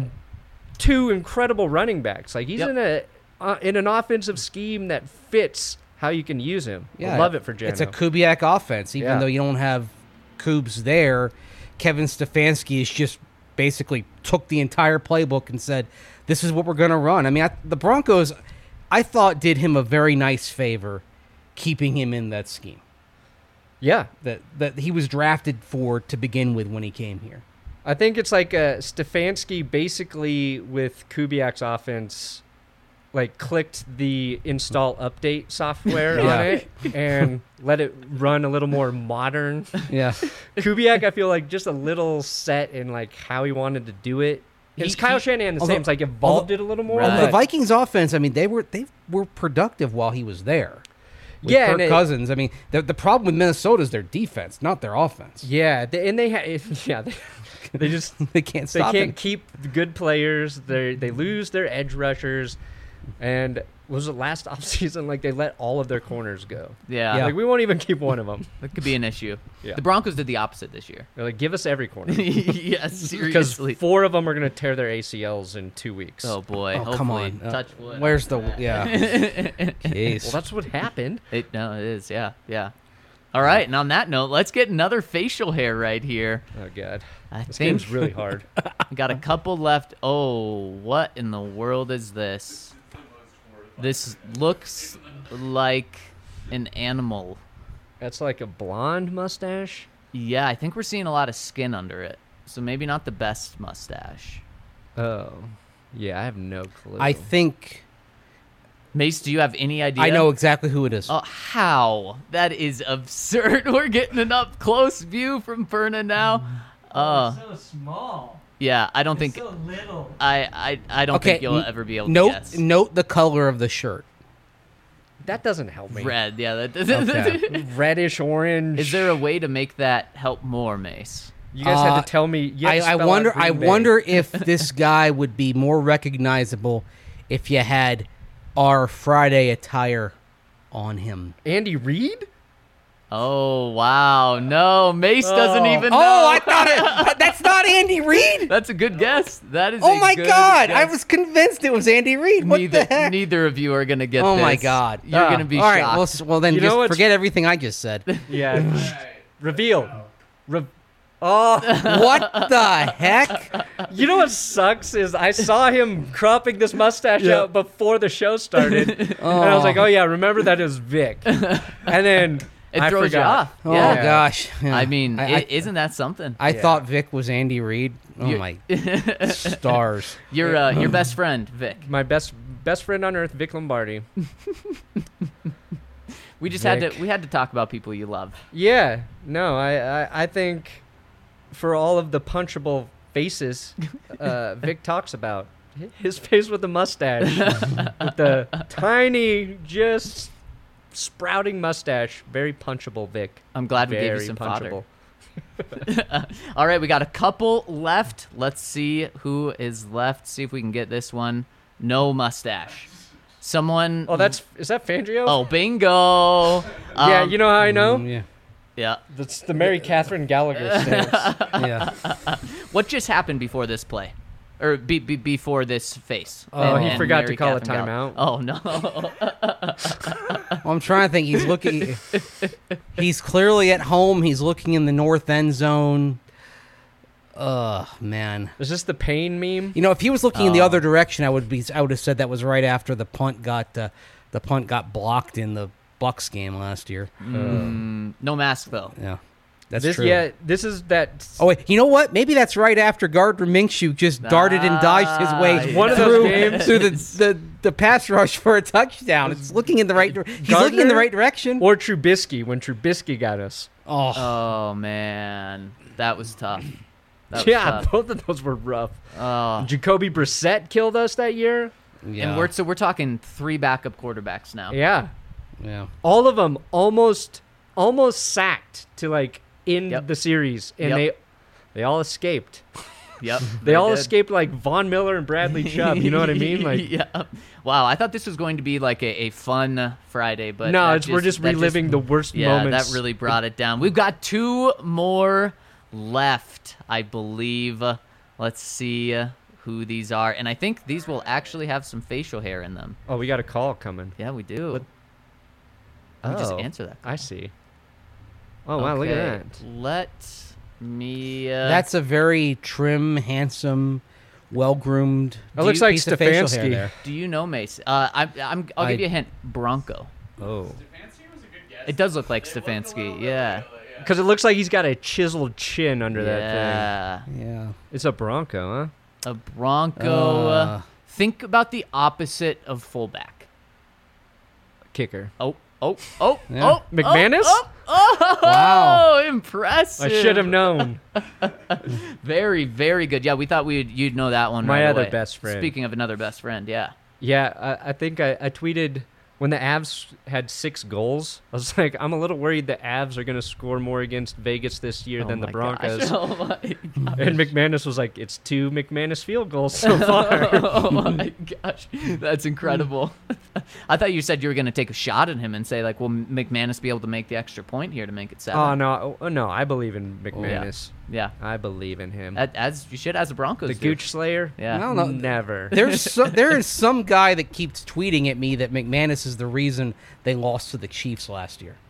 two incredible running backs. Like, he's Yep. in an offensive scheme that fits how you can use him. I love it for Jano. It's a Kubiak offense. Even Yeah. though you don't have Kubes there, Kevin Stefanski has just basically took the entire playbook and said, this is what we're going to run. I mean, the Broncos, I thought, did him a very nice favor keeping him in that scheme Yeah. that he was drafted for to begin with when he came here. I think it's like Stefanski basically with Kubiak's offense, like clicked the install update software Yeah. on it and let it run a little more modern. Yeah. Kubiak, I feel like just a little set in like how he wanted to do it. It's Kyle Shanahan the same. It's like evolved it a little more. Right. The but- Vikings offense, I mean, they were productive while he was there. With Yeah, Kirk and Cousins. I mean, the problem with Minnesota is their defense, not their offense. Yeah, they just They can't they stop can't him. keep the good players. They lose their edge rushers, and was it last offseason? Like they let all of their corners go. Yeah. Yeah. Like we won't even keep one of them. That could be an issue. Yeah. The Broncos did the opposite this year. They're like, give us every corner. Yes, Because seriously. 4 of them are going to tear their ACLs in 2 weeks. Oh boy. Oh, Hopefully. come on. Touch wood. Where's the Jeez. Well, that's what happened. It is. Yeah. Yeah. All right. And on that note, let's get another facial hair right here. Oh, God. I This think game's really hard. we got a couple left. Oh, what in the world is this? This looks like an animal. That's like a blonde mustache. Yeah, I think we're seeing a lot of skin under it. So maybe not the best mustache. Oh. Yeah, I have no clue. I think Mace, do you have any idea? I know exactly who it is. Oh, how? That is absurd. We're getting an up close view from Perna now. so small. Yeah, I don't think So little. I don't think you'll ever be able to note, guess. Note the color of the shirt. That doesn't help me. Red, yeah. Okay. Reddish orange. Is there a way to make that help more, Mace? You guys had to tell me. You had to I spell out wonder. Green I Bay. wonder if this guy would be more recognizable if you had our Friday attire on him. Andy Reid? Oh, wow. No, Mace doesn't even know. Oh, I thought it. That's not Andy Reid. That's a good guess. That is Oh a my good God! I guess. was convinced it was Andy Reid. What neither, the heck? neither of you are going to get Oh this. my God! You're going to be all right. shocked. Well, then You know just what's- forget everything I just said. Yeah. Reveal. Oh, What the heck? you know what sucks is I saw him cropping this mustache out before the show started, and I was like, "Oh yeah, remember that is Vic." And then It I throws forgot. you off. Oh Yeah. gosh. Yeah. I mean, I isn't that something? I thought Vic was Andy Reid. Oh You- my stars. Your best friend, Vic. My best friend on earth, Vic Lombardi. We just Vic. had to talk about people you love. Yeah, no, I think for all of the punchable faces Vic talks about, his face with the mustache, with the tiny, just sprouting mustache, very punchable Vic. I'm glad we gave you Very some punchable. fodder. All right, we got a couple left. Let's see who is left. See if we can get this one. No mustache. Someone. Oh, is that Fangio? Oh, bingo. yeah, you know how I know? Yeah. Yeah. That's the Mary Catherine Gallagher stance. Yeah. What just happened before this play? Or before this face? Oh, he And forgot to Mary call a Catherine timeout. Oh, no. Well, I'm trying to think. He's looking. He's clearly at home. He's looking in the north end zone. Man. Is this the pain meme? You know, if he was looking in the Oh. other direction, I would have said that was right after the punt got blocked in the Bucks game last year. No mask, though. Yeah, that's This, true. yeah, this is that. Oh wait, you know what? Maybe that's right after Gardner Minshew just darted and dodged his way One of those through, games. through the pass rush for a touchdown. It's looking in the right. He's looking in the Gardner? right direction. Or Trubisky, when Trubisky got us. Oh, Oh, man. That was tough. That was Yeah, tough. both of those were rough. Oh. Jacoby Brissett killed us that year. yeah. And we're talking 3 backup quarterbacks now. Yeah. yeah. All of them almost sacked to like end Yep. the series, and Yep. they all escaped. Yep. They all did. escaped like Von Miller and Bradley Chubb. You know what I mean? Like, yeah. Wow, I thought this was going to be like a fun Friday, but no, that we're just reliving the worst yeah, moments. that really brought it down. We've got 2 more left, I believe. Let's see who these are, and I think these will actually have some facial hair in them. Oh, we got a call coming. Yeah, we do. What- Let me just Oh, answer that. I see. Oh wow, look at Okay, that. Let me. That's a very trim, handsome, well-groomed. That looks like piece of facial hair Stefanski. there. Do you know Mace? I'll give you a hint. Bronco. Oh, Stefanski was a good guess. It does look like Stefanski. Yeah. because it looks like he's got a chiseled chin under that Yeah. Yeah. thing. It's a Bronco, huh? A Bronco. Think about the opposite of fullback. Kicker. Oh. Yeah. McManus? Oh, Wow. impressive. I should have known. Very, very good. Yeah, we thought you'd know that one. My right other away. best friend. Speaking of another best friend, yeah. Yeah, I think I tweeted when the Avs had 6 goals. I was like, I'm a little worried the Avs are going to score more against Vegas this year than the my Broncos. Gosh. Oh my gosh. And McManus was like, it's 2 McManus field goals so far. Oh my gosh, that's incredible. I thought you said you were going to take a shot at him and say like, will McManus be able to make the extra point here to make it 7? no, I believe in McManus. Yeah, I believe in him. as you should as a Broncos. The do. Gooch Slayer? Yeah. I don't know. Never. there is some guy that keeps tweeting at me that McManus is the reason they lost to the Chiefs last year.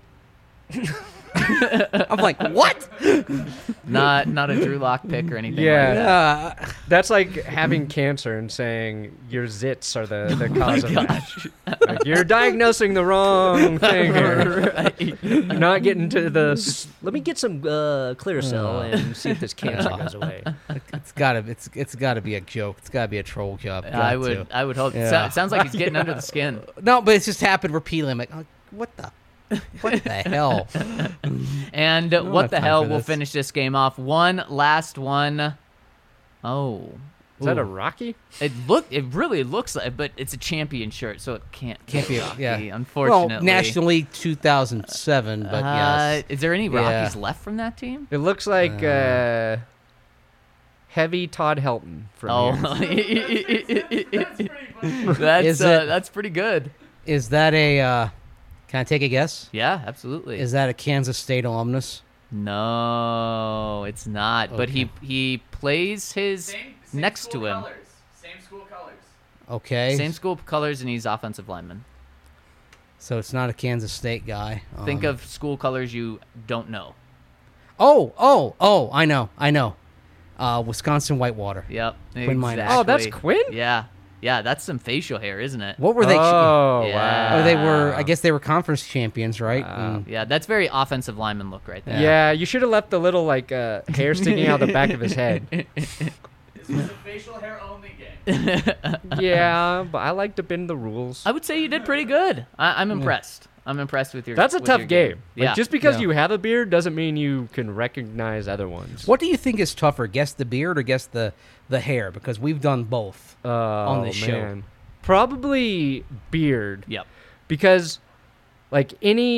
I'm like, what? Not a Drew Lock pick or anything. Yeah. like that. That's like having cancer and saying your zits are the cause of it. Like, you're diagnosing the wrong thing here. Right. You're not getting to the. Let me get some Clearasil and see if this cancer goes away. It's gotta be a joke. It's gotta be a troll job. I would hope. Yeah. It sounds like he's getting under the skin. No, but it's just happened repeatedly. I'm like, oh, what the hell? And don't what have the time hell? for We'll this. finish this game off. One last one. Oh. Is that a Ooh. Rocky? It really looks like, but it's a champion shirt, so it can't Can't be. Rocky, Yeah. unfortunately. Well, National League 2007, but yes. Is there any Yeah. Rockies left from that team? It looks like heavy Todd Helton from Oh, here. that's pretty good. Is that a? Can I take a guess? Yeah, absolutely. Is that a Kansas State alumnus? No, it's not. But Okay. he plays his Same next school to him. Colors. Same school colors. Okay. Same school colors, and he's offensive lineman. So it's not a Kansas State guy. Think of school colors you don't know. Oh, I know. Wisconsin Whitewater. Yep. Quinn Miners. Exactly. Oh, that's Quinn? Yeah, that's some facial hair, isn't it? What were they? Oh, Yeah. wow. They were. I guess they were conference champions, right? And- Yeah, that's very offensive lineman look right there. Yeah, you should have left the little like hair sticking out the back of his head. This was a facial hair only game. Yeah, but I like to bend the rules. I would say you did pretty good. I'm impressed. I'm impressed with your. That's a with tough your game. Like, Yeah. just because Yeah. you have a beard doesn't mean you can recognize other ones. What do you think is tougher, guess the beard or guess the hair? Because we've done both on this show. Probably beard. Yep. Because like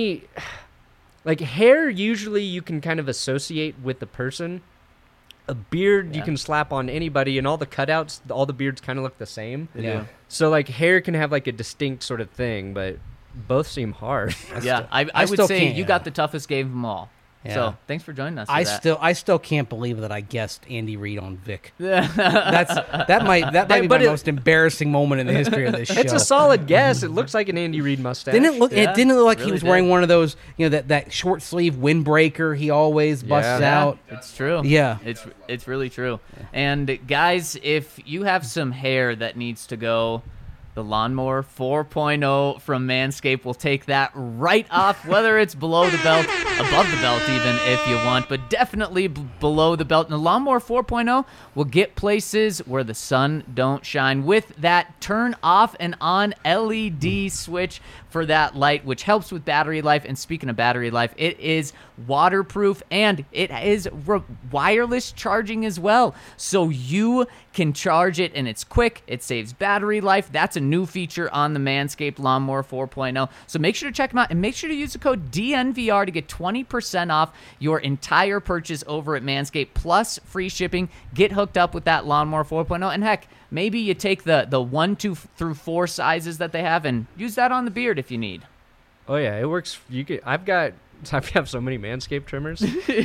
hair usually you can kind of associate with the person. A beard you Yeah. can slap on anybody, and all the cutouts, all the beards kind of look the same. They Yeah. do. So like hair can have like a distinct sort of thing, but both seem hard. Yeah, I I would still say can't- you got the toughest game of them all. Yeah. So thanks for joining us. for I that. still can't believe that I guessed Andy Reid on Vic. That's That might be But my it- most embarrassing moment in the history of this show. It's a solid guess. It looks like an Andy Reid mustache. Didn't it look? Yeah, It didn't look like really he was did. wearing one of those, that short sleeve windbreaker he always busts Yeah. out. It's true. Yeah. It's really true. And guys, if you have some hair that needs to go, the Lawnmower 4.0 from Manscaped will take that right off, whether it's below the belt, above the belt even if you want, but definitely below the belt. And the Lawnmower 4.0 will get places where the sun don't shine with that turn off and on LED switch for that light, which helps with battery life. And speaking of battery life, it is waterproof and it is wireless charging as well. So you can charge it and it's quick. It saves battery life. That's a new feature on the Manscaped Lawnmower 4.0. So make sure to check them out and make sure to use the code DNVR to get 20% off your entire purchase over at Manscaped plus free shipping. Get hooked up with that Lawnmower 4.0. And heck, maybe you take the 1, 2 through 4 sizes that they have and use that on the beard if you need. Oh yeah, it works. I've got so many Manscaped trimmers.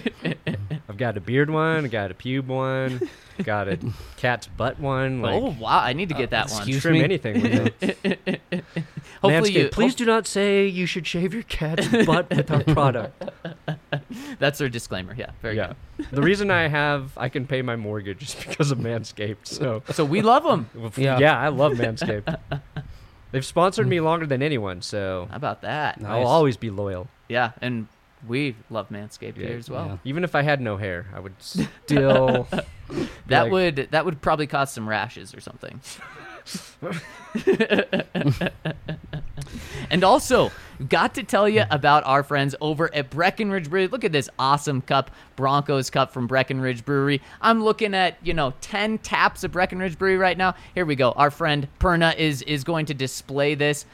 I've got a beard one, I got a pube one, got a cat's butt one. Like, Oh wow, I need to get that one. excuse trim me? anything with it. Hopefully Manscaped, you please do not say you should shave your cat's butt with our product. That's their disclaimer. Yeah, very Yeah. The reason I can pay my mortgage is because of Manscaped. So good. So we love them. Yeah. I love Manscaped. They've sponsored me longer than anyone, so How about that? Nice. I'll always be loyal. Yeah, and we love Manscaped here as well. Yeah. Even if I had no hair, I would still. That like- would probably cause some rashes or something. And also, got to tell you about our friends over at Breckenridge Brewery. Look at this awesome cup, Broncos cup from Breckenridge Brewery. I'm looking at, 10 taps of Breckenridge Brewery right now. Here we go. Our friend Perna is going to display this.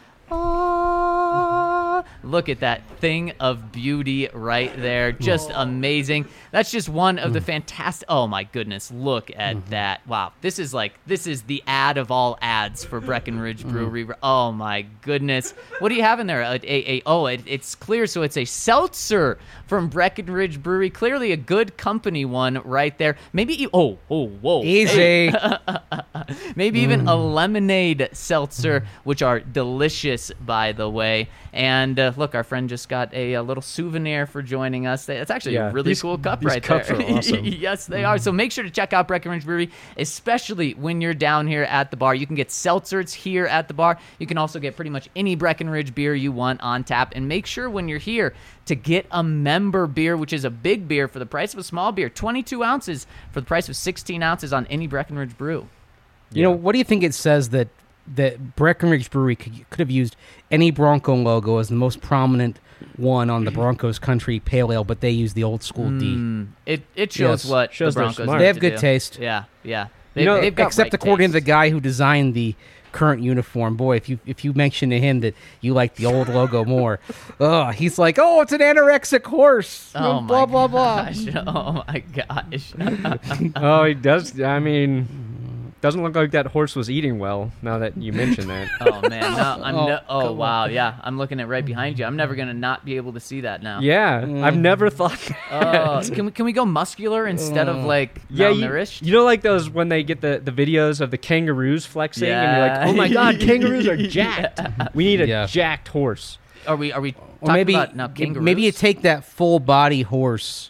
Look at that thing of beauty right there. Just amazing. That's just one of the fantastic. Oh my goodness. Look at that. Wow. This is the ad of all ads for Breckenridge Brewery. Oh my goodness. What do you have in there? It's clear. So it's a seltzer from Breckenridge Brewery. Clearly a good company one right there. Maybe, whoa. Easy. Maybe even a lemonade seltzer, which are delicious, by the way. And look, our friend just got a little souvenir for joining us. It's actually a really cool cup these right cups there. are awesome. Yes, they are. So make sure to check out Breckenridge Brewery, especially when you're down here at the bar. You can get seltzers here at the bar. You can also get pretty much any Breckenridge beer you want on tap. And make sure when you're here to get a member beer, which is a big beer for the price of a small beer, 22 ounces for the price of 16 ounces on any Breckenridge brew. What do you think it says that Breckenridge Brewery could have used any Bronco logo as the most prominent one on the Broncos Country Pale Ale, but they use the old school D. It shows Yes. what Shows the they're Broncos smart. need They have to good do. taste. Yeah. know, They've got Except right according to the taste. guy who designed the current uniform. Boy, if you mention to him that you like the old logo more, he's like, oh, it's an anorexic horse. Oh blah, my blah, blah. gosh. Oh my gosh. Oh, he does. I mean, doesn't look like that horse was eating well. Now that you mention that. Oh man. No, come wow. Yeah. I'm looking at right behind you. I'm never gonna not be able to see that now. Yeah, I've never thought. That. Can we go muscular instead of like Yeah, malnourished? you know, like those when they get the videos of the kangaroos flexing, and you're like, oh my god, kangaroos are jacked. We need a Yeah. jacked horse. Are we Or talking maybe about now kangaroos? maybe you take that full body horse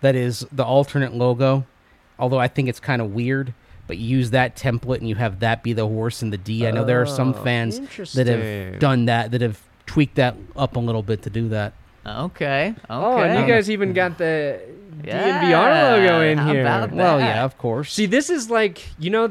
that is the alternate logo. Although I think it's kind of weird, but you use that template and you have that be the horse and the D. I know there are some fans that have done that have tweaked that up a little bit to do that. Okay. Oh, and you guys even got the DNVR logo in how here. about that? Well, yeah, of course. See, this is like, you know,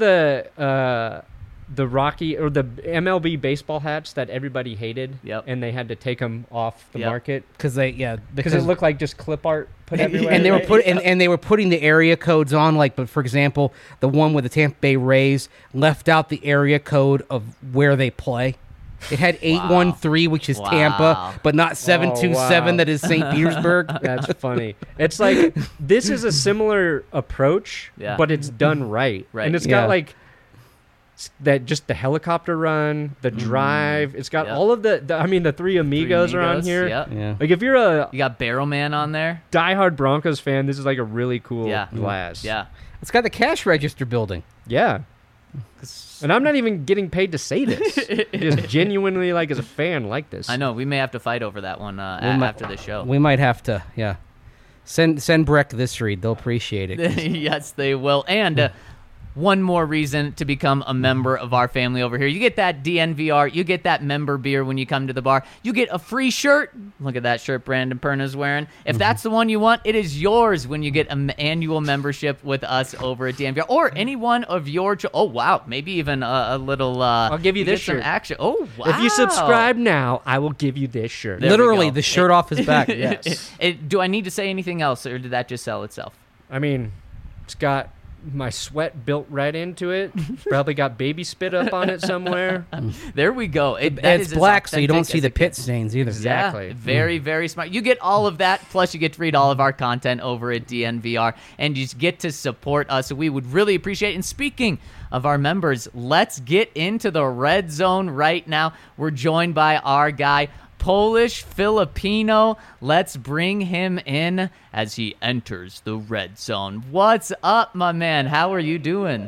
the Rocky or the MLB baseball hats that everybody hated, Yep. and they had to take them off the market because because it looked like just clip art put everywhere. and they were and they were putting the area codes on, like, but for example, the one with the Tampa Bay Rays left out the area code of where they play. It had 813, which is Tampa, but not 727, that is St. Petersburg. That's funny. It's like, this is a similar approach, but it's done right. And it's got like that, just the helicopter run, the drive. It's got all of the three amigos are on here. Yep. Like, if you're You got Barrel Man on there. diehard Broncos fan, this is like a really cool glass. Yeah. It's got the cash register building. Yeah. And I'm not even getting paid to say this. Just genuinely, like, as a fan, like this. I know. We may have to fight over that one after the show. We might have to, Send Breck this read. They'll appreciate it. Yes, they will. And one more reason to become a member of our family over here. You get that DNVR. You get that member beer when you come to the bar. You get a free shirt. Look at that shirt Brandon Perna's wearing. If that's the one you want, it is yours when you get an annual membership with us over at DNVR. Or any one of your... oh, wow. Maybe even a little... I'll give you this some shirt. Action. Oh, wow. If you subscribe now, I will give you this shirt. There we Literally, go. the shirt off his back. Yes. Do I need to say anything else, or did that just sell itself? I mean, it's got my sweat built right into it. Probably got baby spit up on it somewhere. There we go. That It's is as black, so you don't authentic see as the it pit gets. stains either. Exactly. Yeah, very, very smart. You get all of that, plus you get to read all of our content over at DNVR, and you just get to support us. So we would really appreciate it. And speaking of our members, let's get into the red zone right now. We're joined by our guy, Polish Filipino. Let's bring him in as he enters the red zone. What's up, my man? How are you doing?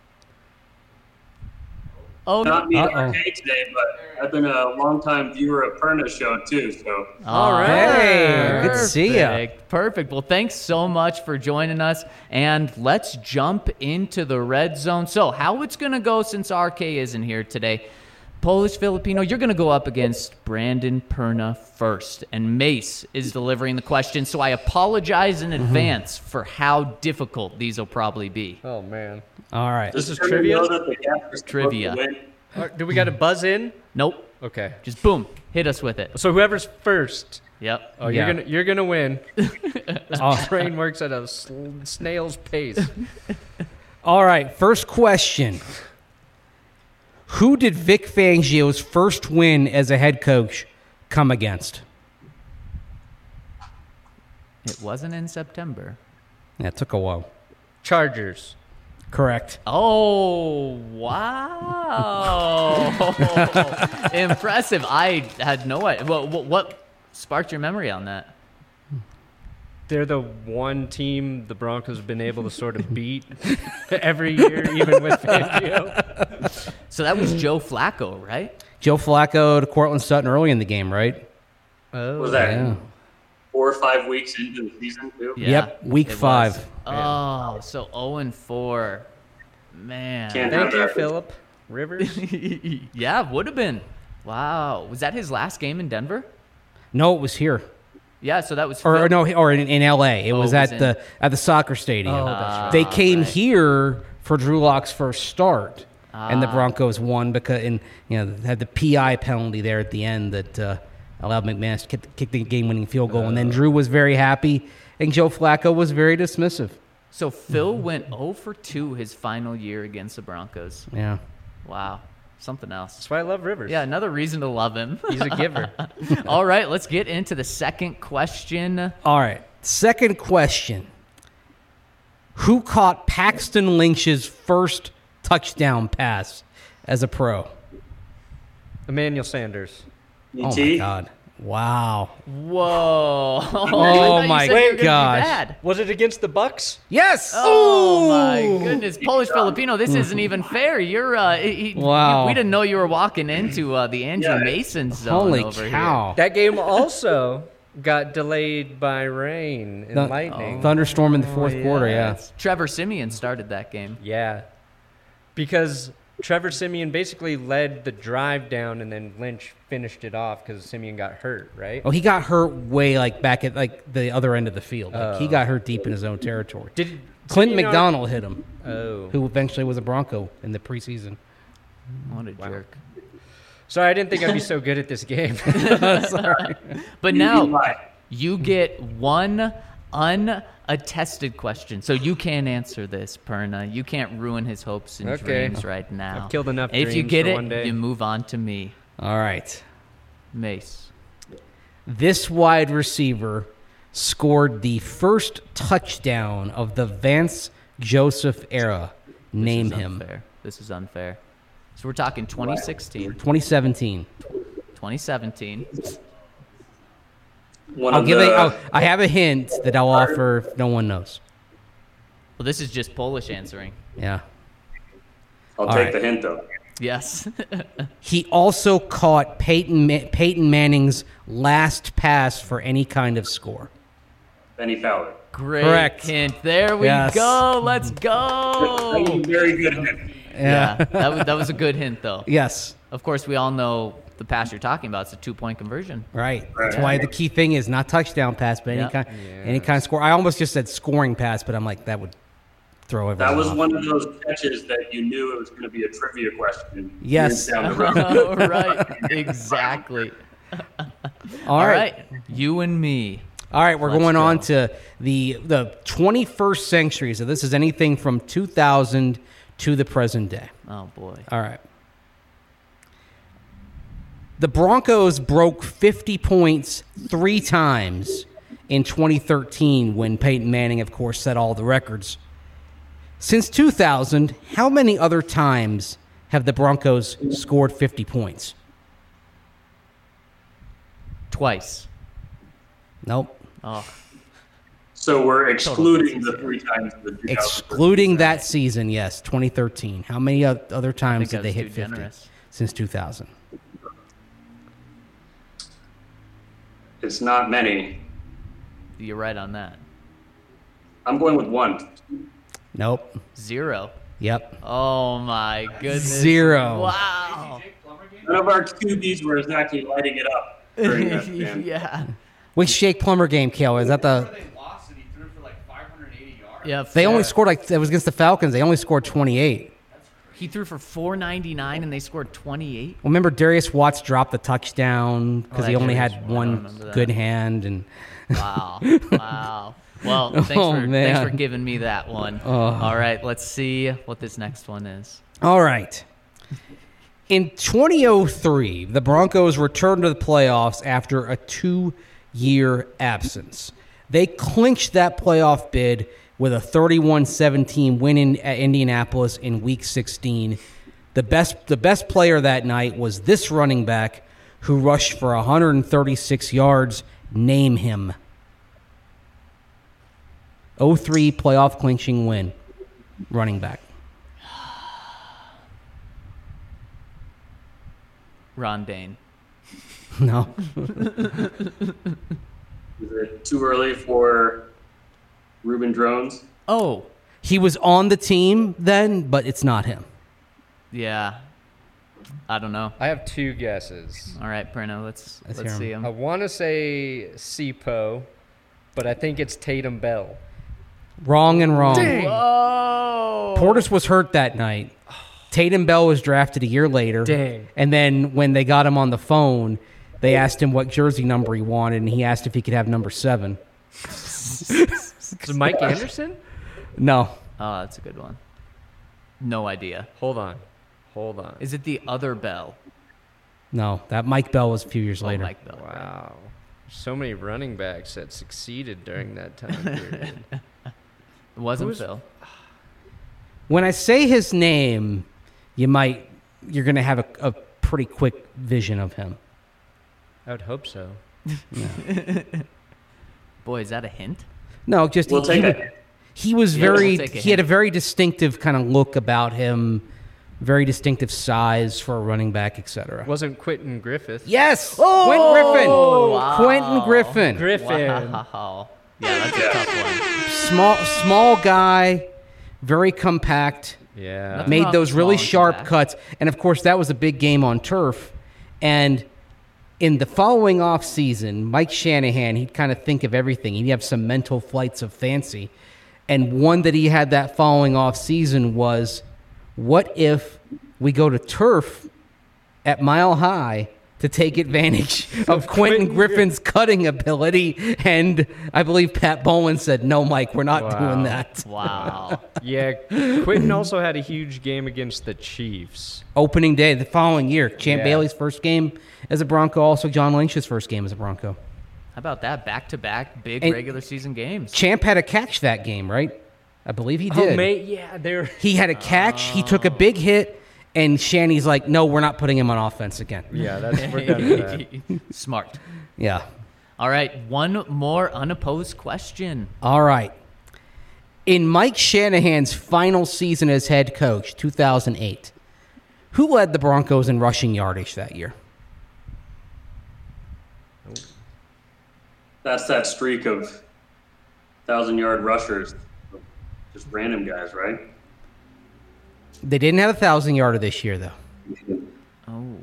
Oh, Not me arcade today, but I've been a longtime viewer of Perna's show too. So all right. Hey, good to see ya. Perfect. Perfect. Well, thanks so much for joining us, and let's jump into the red zone. So, how it's going to go since RK isn't here today? Polish Filipino, you're going to go up against Brandon Perna first, and Mace is delivering the question, so I apologize in advance for how difficult these will probably be. Oh, man. All right. This is Perna trivia? know that the Gap is Trivia. supposed to win. Do we got to buzz in? Nope. Okay. Just boom. Hit us with it. So whoever's first. Yep. Oh, Yeah. you're gonna win. This train works at a snail's pace. All right. First question. Who did Vic Fangio's first win as a head coach come against? It wasn't in September. That took a while. Chargers. Correct. Oh, wow. Impressive. I had no idea. What sparked your memory on that? They're the one team the Broncos have been able to sort of beat every year, even with Fangio. So that was Joe Flacco, right? Joe Flacco to Cortland Sutton early in the game, right? Was that Yeah. 4 or 5 weeks into the season too? Yeah, Yep, week it 5. was. Oh, so 0-4. Man. Can't Thank have you, that. Philip Rivers. Yeah, would have been. Wow. Was that his last game in Denver? No, it was here. Yeah, so that was Or Phil- no, or in L.A. It was it was at the soccer stadium. Oh, that's right. They came right. here for Drew Lock's first start, and the Broncos won because had the PI penalty there at the end that allowed McManus to kick the game-winning field goal, and then Drew was very happy, and Joe Flacco was very dismissive. So Phil went 0-2 his final year against the Broncos. Yeah. Wow. Something else. That's why I love Rivers. Yeah, another reason to love him. He's a giver. All right, let's get into the second question. All right. Second question. Who caught Paxton Lynch's first touchdown pass as a pro? Emmanuel Sanders. Oh, ET? my God. Wow. Whoa. I thought you my said you were gonna be gosh. bad. Was it against the Bucks? Yes! Oh my goodness, Polish Filipino! This isn't even fair. You're Wow. we didn't know you were walking into the Andrew Yeah. Mason zone Holy over cow. That game also got delayed by rain and lightning. Thunderstorm in the fourth quarter, yeah. Trevor Siemian started that game. Yeah. Because Trevor Siemian basically led the drive down, and then Lynch finished it off because Siemian got hurt, right? Oh, he got hurt way back at the other end of the field. He got hurt deep in his own territory. Did Clinton Siemian McDonald hit him, Oh. who eventually was a Bronco in the preseason. What a jerk. Sorry, I didn't think I'd be so good at this game. Sorry. But now you get one unattested question. So you can't answer this, Perna. You can't ruin his hopes and dreams right now. I've killed enough If you dreams get for it, one day. you move on to me. All right. Mace. This wide receiver scored the first touchdown of the Vance Joseph era. Name This is him. unfair. This is unfair. So we're talking 2016, 2017. 2017. I have a hint that I'll offer if no one knows. Well, this is just Polish answering. Yeah. I'll All take right. the hint, though. Yes. He also caught Peyton Manning's last pass for any kind of score. Benny Fowler. Great Correct. hint. There we Yes. go. Let's That go. was a very good hint. Yeah, that was a good hint, though. Yes. Of course, we all know the pass you're talking about. It's a 2-point conversion. Right. That's why the key thing is not touchdown pass, but any kind of score. I almost just said scoring pass, but I'm like, that would throw everyone That was off. one of those catches that you knew it was going to be a trivia question. Yes. Down the road. Oh, right. Exactly. All right. You and me. All right, we're Let's going on go. to the 21st century. So this is anything from 2000 to the present day. Oh, boy. All right. The Broncos broke 50 points 3 times in 2013 when Peyton Manning, of course, set all the records. Since 2000, how many other times have the Broncos scored 50 points? Twice. Nope. Oh, So we're excluding the 3 times the 2000. Excluding that season, yes, 2013. How many other I times think did I they was hit too 50 generous. since 2000? It's not many. You're right on that. I'm going with 1. Nope. 0. Yep. Oh, my goodness. 0. Wow. None of our QBs were exactly lighting it up during that game. Yeah. Which Jake Plummer game, Kale? Is that the... They lost and he threw for like 580 yards. Yeah. They only scored it was against the Falcons. They only scored 28. He threw for 499 and they scored 28. Well, remember Darius Watts dropped the touchdown because he that only Darius had Watts, I one remember that. good hand, and Wow. Wow. Well, thanks Oh, for man. giving me that one. Oh. All right, let's see what this next one is. all right. In 2003, the Broncos returned to the playoffs after a 2-year absence. They clinched that playoff bid with a 31-17 win at Indianapolis in Week 16. The best player that night was this running back who rushed for 136 yards. Name him. 0-3 playoff clinching win. Running back. Ron Dane. No. Is it too early for Reuben Drones? Oh, He was on the team then, but it's not him. yeah. I don't know. I have 2 guesses. All right, Perno, let's hear him. see I him. want to say Sipo, but I think it's Tatum Bell. Wrong and wrong. Whoa. Portis was hurt that night. Tatum Bell was drafted a year later. Dang. And then when they got him on the phone, they asked him what jersey number he wanted, and he asked if he could have number 7. Is it Mike Anderson? No. Oh, that's a good one. No idea. Hold on. Is it the other Bell? No. That Mike Bell was a few years Oh, later. Mike Bell. right. Wow. So many running backs that succeeded during that time period. It wasn't Who's- Phil. When I say his name, you're going to have a pretty quick vision of him. I would hope so. Boy, is that a hint? No, just We'll take it. he was Yeah, we'll very take a he had a hint. very distinctive kind of look about him very distinctive size for a running back, etc. Wasn't Quentin Griffith? Yes, wow. Quentin Griffin. Griffin. Wow. Yeah, that's a tough one. Small guy, very compact. Yeah. Nothing Made wrong those with really small and sharp compact. cuts, and of course that was a big game on turf. And in the following off season, Mike Shanahan, he'd kind of think of everything. He'd have some mental flights of fancy, and one that he had that following off season was, what if we go to turf at Mile High to take advantage of Quentin Griffin's cutting ability? And I believe Pat Bowlen said, no, Mike, we're not doing that. Wow. Yeah, Quentin also had a huge game against the Chiefs. Opening day the following year. Champ Yeah. Bailey's first game as a Bronco, also John Lynch's first game as a Bronco. How about that? Back-to-back big And regular season games. Champ had a catch that game, right? I believe he did. Oh, mate, yeah, they're He had a catch. He took a big hit, and Shanny's like, no, we're not putting him on offense again. yeah, we're done with that. Smart. Yeah. All right, one more unopposed question. All right. In Mike Shanahan's final season as head coach, 2008, who led the Broncos in rushing yardage that year? That's that streak of 1,000-yard rushers, just random guys, right? They didn't have a 1,000-yarder this year, though. Oh.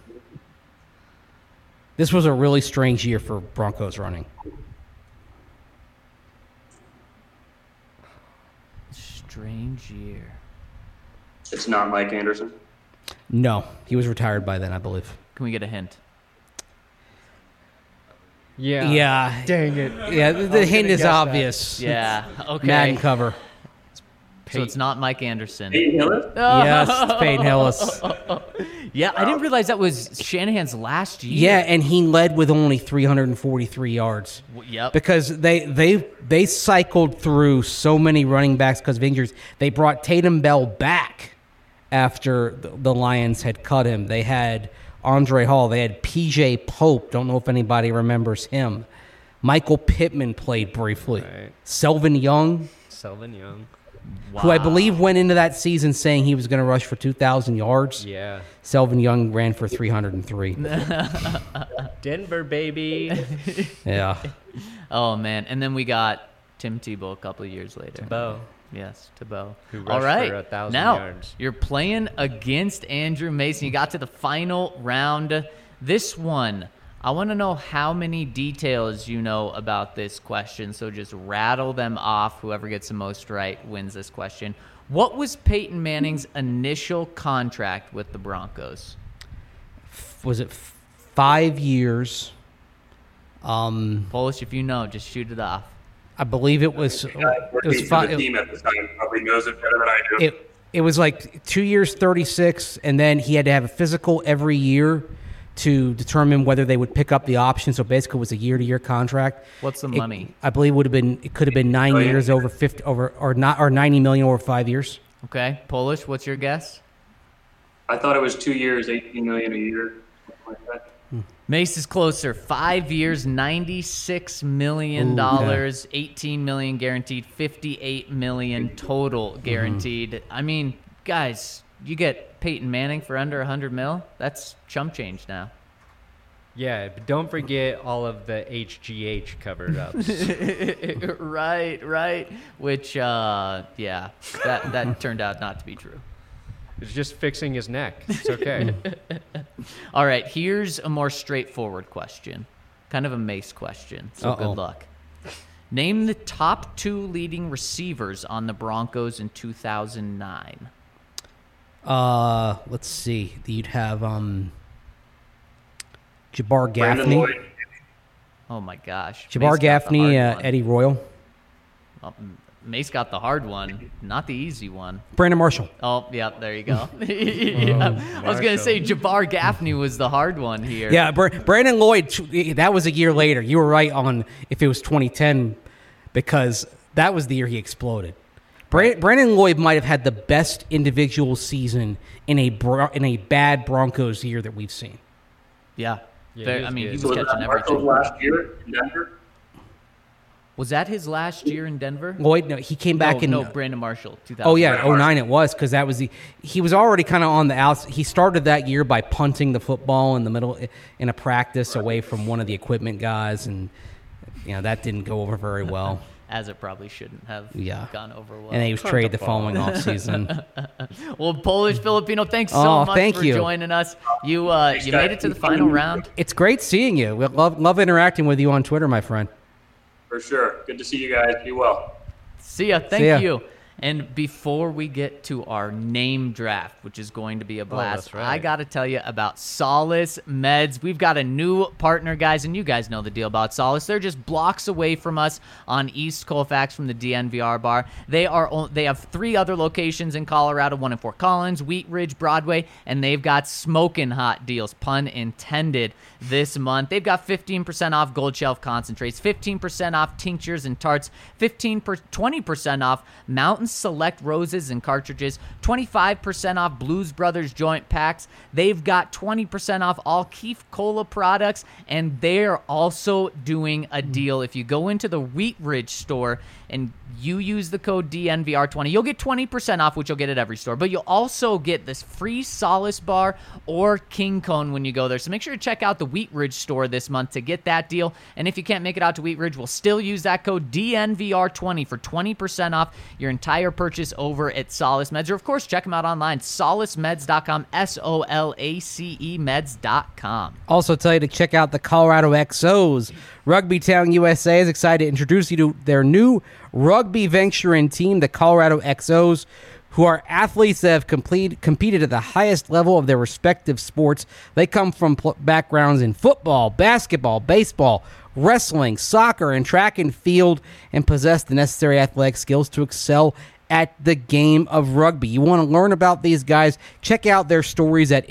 This was a really strange year for Broncos running. Strange year. It's not Mike Anderson. No, he was retired by then, I believe. Can we get a hint? Yeah. Yeah. Dang it. Yeah, the hint gonna is guess that. obvious. Yeah. Okay. Madden cover. So it's not Mike Anderson. Peyton Hillis? Yes, it's Peyton Hillis. Yeah, I didn't realize that was Shanahan's last year. Yeah, and he led with only 343 yards. Yep. Because they cycled through so many running backs because of injuries. They brought Tatum Bell back after the Lions had cut him. They had Andre Hall. They had P.J. Pope. Don't know if anybody remembers him. Michael Pittman played briefly. Right. Selvin Young, Selvin Young. who I believe went into that season saying he was going to rush for 2,000 yards. Yeah. Selvin Young ran for 303. Denver, baby. Yeah. Oh man, and then we got Tim Tebow a couple of years later. Bo. Yes, Tebow. Who rushed All right, for 1,000 now yards. you're playing against Andrew Mason. You got to the final round. This one, I want to know how many details you know about this question. So just rattle them off. Whoever gets the most right wins this question. What was Peyton Manning's initial contract with the Broncos? Was it 5 years? Polish, if you know, just shoot it off. I believe it was. The guy It was working for five. the team at the time probably knows it better than I do. It was like 2 years, 36, and then he had to have a physical every year to determine whether they would pick up the option. So basically, it was a year-to-year contract. What's the money? I believe it could have been 9 Oh, yeah. years over 50 or 90 million over 5 years. Okay, Polish, what's your guess? I thought it was 2 years, $18 million a year, something like that. Mace is closer. 5 years, $96 million, Ooh, okay. 18 million guaranteed, 58 million total guaranteed. I mean, guys, you get Peyton Manning for under 100 mil. That's chump change now. Yeah, but don't forget all of the HGH covered ups. right. Which, yeah, that turned out not to be true. It's just fixing his neck. It's okay. All right, here's a more straightforward question. Kind of a Mace question, so Uh-oh. good luck. Name the top 2 leading receivers on the Broncos in 2009. Let's see. You'd have Jabbar Brandon Gaffney. Lloyd. Oh, my gosh. Jabbar Mace got the Gaffney, hard one. Eddie Royal, Mace got the hard one, not the easy one. Brandon Marshall. Oh, yeah, there you go. I was going to say Jabbar Gaffney was the hard one here. Yeah, Brandon Lloyd, that was a year later. You were right on if it was 2010 because that was the year he exploded. Brandon Lloyd might have had the best individual season in a bad Broncos year that we've seen. Yeah. Yeah, Very- he was I mean, good. he So was was catching that Marshall everything. last year in Denver? Was that his last year in Denver? Lloyd, no, he came back in. No, Brandon Marshall, 2000. Oh yeah, 09 it was, because that was he was already kind of on the outs. He started that year by punting the football in the middle in a practice away from one of the equipment guys, and that didn't go over very well. As it probably shouldn't have gone over well. And he was traded the following offseason. Well, Polish Filipino, thanks so much for joining us. You made it to the final round. It's great seeing you. We love interacting with you on Twitter, my friend. For sure. Good to see you guys. Be well. See ya. Thank you. And before we get to our name draft, which is going to be a blast, that's right. I got to tell you about Solace Meds. We've got a new partner, guys, and you guys know the deal about Solace. They're just blocks away from us on East Colfax from the DNVR bar. They have 3 other locations in Colorado, one in Fort Collins, Wheat Ridge, Broadway, and they've got smoking hot deals, pun intended, this month. They've got 15% off Gold Shelf concentrates, 15% off tinctures and tarts, 20% off Mountain Select roses and cartridges, 25% off Blues Brothers joint packs. They've got 20% off all Keef Cola products, and they're also doing a deal. If you go into the Wheat Ridge store and you use the code DNVR20, you'll get 20% off, which you'll get at every store, but you'll also get this free Solace bar or King Cone when you go there. So make sure to check out the Wheat Ridge store this month to get that deal. And if you can't make it out to Wheat Ridge, we'll still use that code DNVR20 for 20% off your entire purchase over at Solace Meds. Or, of course, check them out online, solacemeds.com, SOLACE meds.com. Also tell you to check out the Colorado XOs. Rugby Town USA is excited to introduce you to their new rugby venture and team, the Colorado XOs, who are athletes that have competed at the highest level of their respective sports. They come from backgrounds in football, basketball, baseball, wrestling, soccer, and track and field, and possess the necessary athletic skills to excel at the game of rugby. You want to learn about these guys? Check out their stories at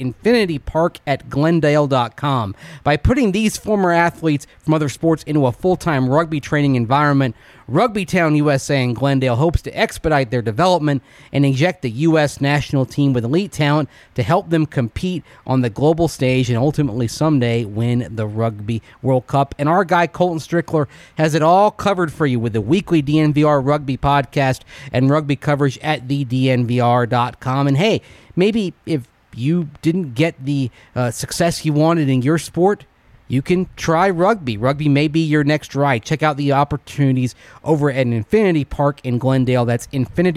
infinitypark@glendale.com. By putting these former athletes from other sports into a full-time rugby training environment, Rugby Town USA in Glendale hopes to expedite their development and inject the U.S. national team with elite talent to help them compete on the global stage and ultimately someday win the Rugby World Cup. And our guy Colton Strickler has it all covered for you with the weekly DNVR Rugby podcast and rugby coverage at thednvr.com. And hey, maybe if you didn't get the success you wanted in your sport, you can try rugby. Rugby may be your next ride. Check out the opportunities over at Infinity Park in Glendale. That's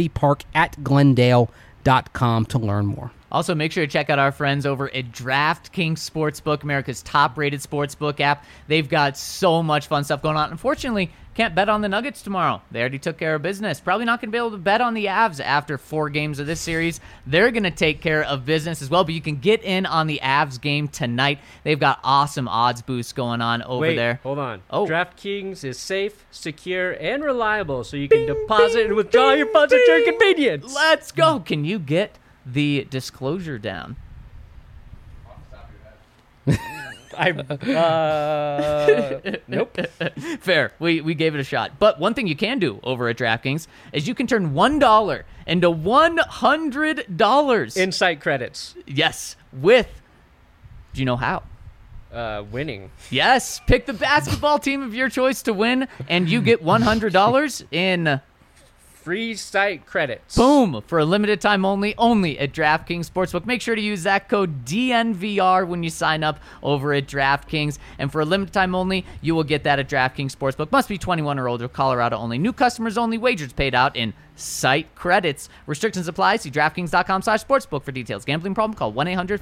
infinitypark@glendale.com to learn more. Also, make sure to check out our friends over at DraftKings Sportsbook, America's top-rated sportsbook app. They've got so much fun stuff going on. Unfortunately, can't bet on the Nuggets tomorrow. They already took care of business. Probably not going to be able to bet on the Avs after 4 games of this series. They're going to take care of business as well, but you can get in on the Avs game tonight. They've got awesome odds boosts going on over there. Hold on. Oh. DraftKings is safe, secure, and reliable, so you can deposit and withdraw your funds at your convenience. Let's go. Can you get the disclosure down? Nope. Fair. We gave it a shot. But one thing you can do over at DraftKings is you can turn $1 into $100 Insight credits. Yes, do you know how? Winning. Yes, pick the basketball team of your choice to win, and you get $100 in Free site credits. boom for a limited time only at DraftKings Sportsbook. Make sure to use that code DNVR when you sign up over at DraftKings, and for a limited time only, you will get that at DraftKings Sportsbook. Must be 21 or older. Colorado only. New customers only. Wagers paid out in site credits. Restrictions apply. See DraftKings.com/sportsbook for details. Gambling problem? Call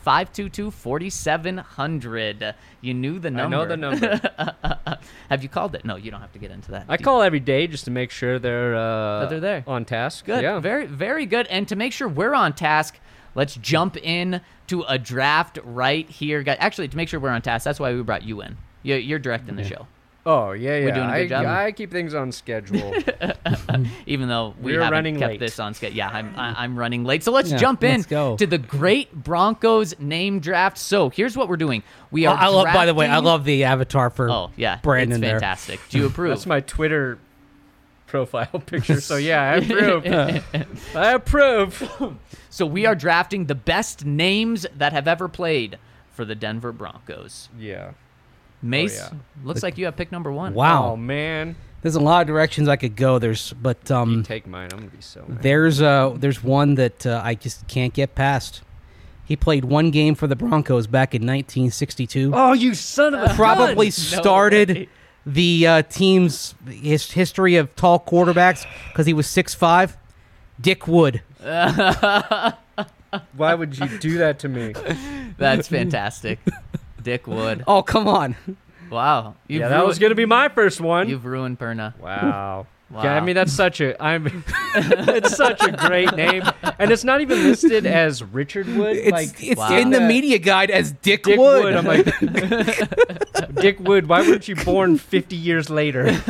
1-800-522-4700. You knew the number. I know the number. Have you called it? No, you don't have to get into that. I call every day just to make sure they're there. on task. Good. Yeah. Very, very good. And to make sure we're on task, let's jump in to a draft right here. Actually, to make sure we're on task, that's why we brought you in. You're directing the show. Oh, yeah. We're doing a good job. I keep things on schedule. Even though we We're haven't running kept late. this on schedule. Yeah, I'm running late. So let's jump in let's go. to the great Broncos name draft. So here's what we're doing. We are I love. By the way, I drafting- love the avatar for Oh, yeah. Brandon it's there. fantastic. Do you approve? That's my Twitter profile picture. So, yeah, I approve. I approve. So we are drafting the best names that have ever played for the Denver Broncos. Yeah. Mace, yeah. looks like you have pick number 1. Oh Wow. man, There's a lot of directions I could go. you take mine. I'm gonna be so mad. There's one that I just can't get past. He played one game for the Broncos back in 1962. Oh, you son of a Probably No started way. the team's history of tall quarterbacks because he was 6'5". Dick Wood. Why would you do that to me? That's fantastic. Dick Wood. Oh, come on. Wow. Yeah, that was gonna be my first one. You've ruined Perna. Wow. Wow. Yeah, I mean that's it's such a great name, and it's not even listed as Richard Wood. It's Wow. in the media guide as Dick, Dick Wood. Wood. I'm like, Dick Wood. Why weren't you born 50 years later?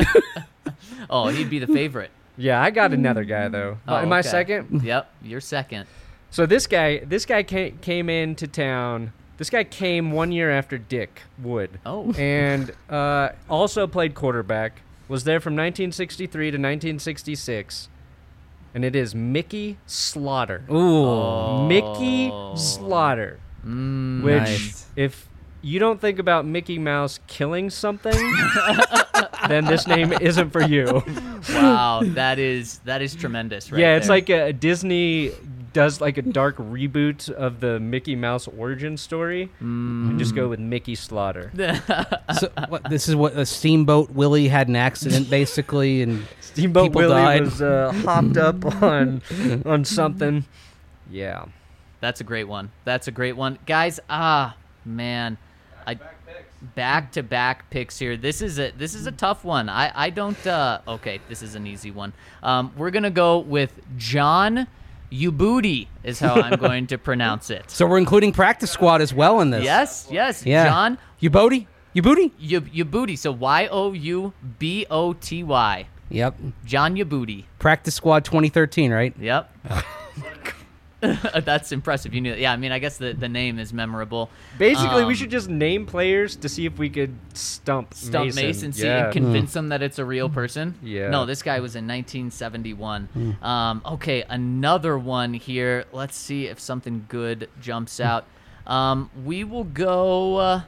Oh, he'd be the favorite. Yeah, I got another guy though. Oh, Am I okay. second? Yep, you're second. So this guy came into town. This guy came 1 year after Dick Wood. Oh. And also played quarterback. Was there from 1963 to 1966. And it is Mickey Slaughter. Ooh. Oh. Mickey Slaughter. Mm, Which, Nice. if you don't think about Mickey Mouse killing something, then this name isn't for you. wow, that is tremendous, right? Yeah, it's there. like a Disney does like a dark reboot of the Mickey Mouse origin story, and just go with Mickey Slaughter. So, this is what a Steamboat Willie had an accident basically, and Steamboat people Willie died. was hopped up on something. Yeah. That's a great one. That's a great one, guys. Man, back-to-back picks here. This is a tough one. I don't. Okay, this is an easy one. We're gonna go with John Ubudi is how I'm going to pronounce it. So we're including practice squad as well in this. Yes, Yeah. John Ubudi? Ubudi. So Youboty. Yep. John Ubudi. Practice squad 2013, right? Yep. That's impressive. You knew that. Yeah, I mean, I guess the name is memorable. Basically, we should just name players to see if we could stump Mason, see, Yeah. and convince them that it's a real person. Yeah. No, this guy was in 1971. Okay, another one here. Let's see if something good jumps out. We will go.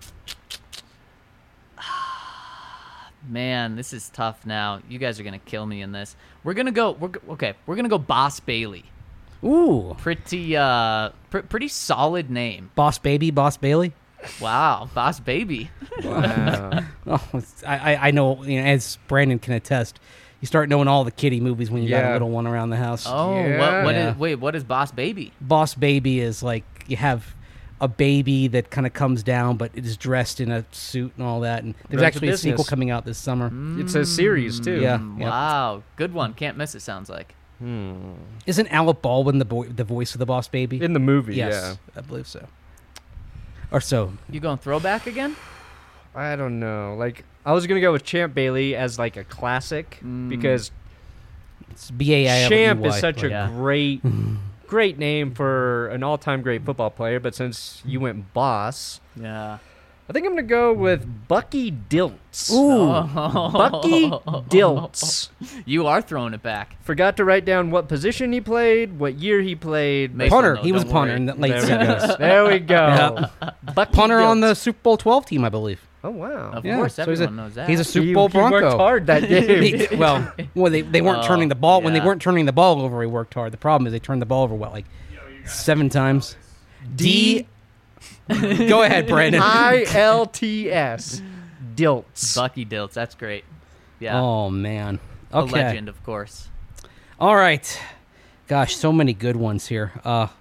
Man, this is tough now. You guys are gonna kill me in this. We're gonna go. We're gonna go Boss Bailey. Ooh. Pretty pretty solid name. Boss Bailey? Wow, Boss Baby. Wow. Oh, I know, as Brandon can attest, you start knowing all the kiddie movies when you got a Yeah. little one around the house. Oh, Yeah. what is Boss Baby? Boss Baby is like you have a baby that kind of comes down, but it is dressed in a suit and all that. And there's Runs a actually a sequel business. coming out this summer. It's a series, too. Yeah. Wow, good one. Can't miss it. Sounds like. Isn't Alec Baldwin the voice of the Boss Baby? In the movie, Yes, I believe so. Or so. You going throwback again? yeah. I don't know. Like, I was going to go with Champ Bailey as, like, a classic because It's B-A-I-L-E-Y. Champ is such a Yeah. great name for an all-time great football player, but since you went Boss, Yeah. I think I'm going to go with Bucky Dilts. Ooh. Bucky Dilts. You are throwing it back. Forgot to write down what position he played, what year he played. Mason, Punter. though, He was a don't punter worry. in the late There we 70s. go. There we go. Bucky Punter on the Dilts. Super Bowl 12 team, I believe. Oh, wow. Of Yeah, course, so he's everyone a- knows that. He's a Super He Bowl worked Bronco. hard that game. well, they weren't Oh, turning the ball. When they yeah. weren't turning the ball over, he worked hard. The problem is they turned the ball over, what, like 7 times? D. Go ahead, Brandon. ILTS. Dilts. Bucky Dilts. That's great. Yeah. Oh, man. A Okay. legend, of course. All right. Gosh, so many good ones here.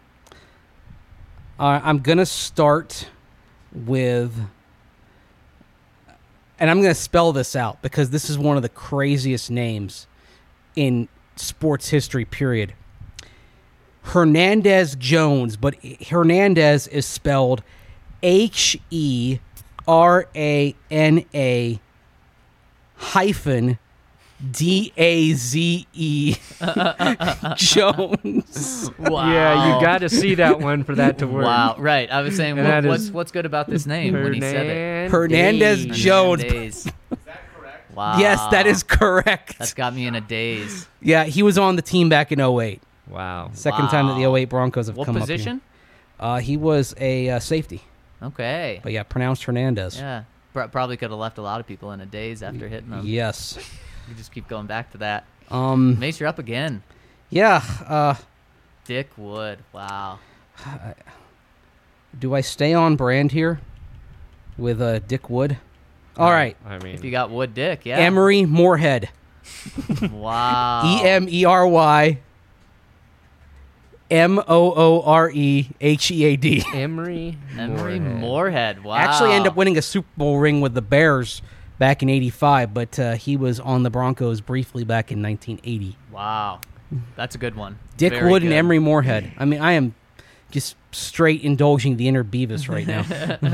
I'm going to start with... And I'm going to spell this out because this is one of the craziest names in sports history, period. Hernandez Jones, but Hernandez is spelled Herana hyphen DAZE Jones. Wow. Yeah, you got to see that one for that to work. Wow. Right. I was saying, And that what's is what's good about this name when he said it? Hernandez Jones. Daze. Is that correct? Wow. Yes, that is correct. That's got me in a daze. Yeah, he was on the team back in 08. Wow. Second time that the Wow. 08 Broncos have What come position? up here. He was a safety. Okay. But yeah, pronounced Hernandez. Yeah. Probably could have left a lot of people in a daze after hitting them. Yes. You just keep going back to that. Um. Mace, you're up again. Yeah. Dick Wood. Wow. Do I stay on brand here with Dick Wood? All right. I mean, If you got Wood Dick, yeah. Emery Moorhead. Wow. Emery Moorehead. Emery Moorhead. Wow. Actually ended up winning a Super Bowl ring with the Bears back in '85, but he was on the Broncos briefly back in 1980. Wow. That's a good one. Dick Very Wood good. and Emery Moorhead. I mean, I am just straight indulging the inner Beavis right now.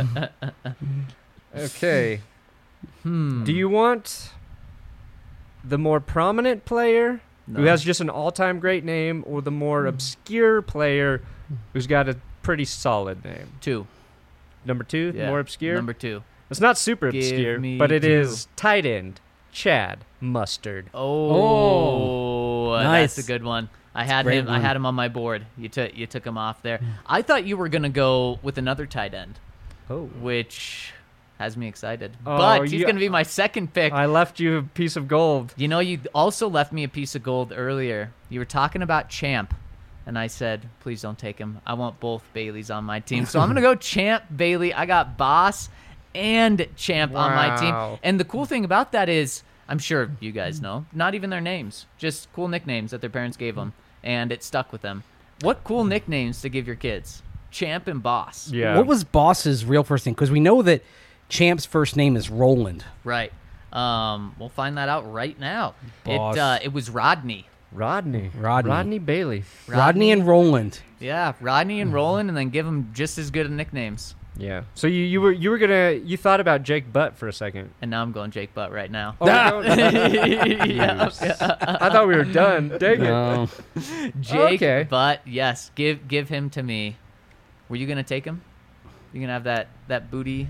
Okay. Do you want the more prominent player who No. has just an all-time great name, or the more obscure player who's got a pretty solid name? 2. Number 2, Yeah. more obscure. Number 2. It's not super Give obscure, me but it 2. is tight end Chad Mustard. Oh, nice. That's a good one. I had great him. I one. had him on my board. You took him off there. I thought you were gonna go with another tight end, Oh, which has me excited. Oh, But he's you- gonna be my second pick. I left you a piece of gold. You know, you also left me a piece of gold earlier. You were talking about Champ, and I said, please don't take him. I want both Baileys on my team. So I'm going to go Champ, Bailey. I got Boss and Champ on my team. Wow. And the cool thing about that is, I'm sure you guys know, not even their names, just cool nicknames that their parents gave them, and it stuck with them. What cool nicknames to give your kids? Champ and Boss. Yeah. What was Boss's real first name? Because we know that Champ's first name is Roland. Right. We'll find that out right now. Boss. It was Rodney. Rodney Bailey? Rodney and Roland. Yeah, Rodney and Roland, and then give them just as good of nicknames. Yeah. So you thought about Jake Butt for a second. And now I'm going Jake Butt right now. Oh, no. Yeah. I thought we were done. Dang it. No. Jake Okay. Butt, yes, give him to me. Were you gonna take him? You gonna have that booty?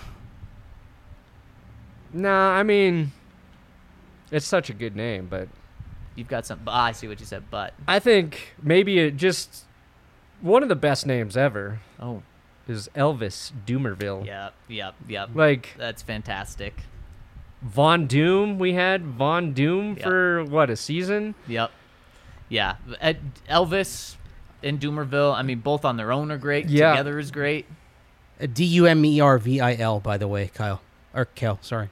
Nah, I mean, it's such a good name, but You've got some. I see what you said, Butt. I think maybe it just one of the best names ever Oh, is Elvis Doomerville. yep. Like That's fantastic. Von Doom, we had Von Doom Yeah. for what, a season? Yep. Yeah, Elvis and Doomerville. I mean, both on their own are great. Yeah. Together is great. Dumervil, by the way, Kyle. Or Kel, sorry.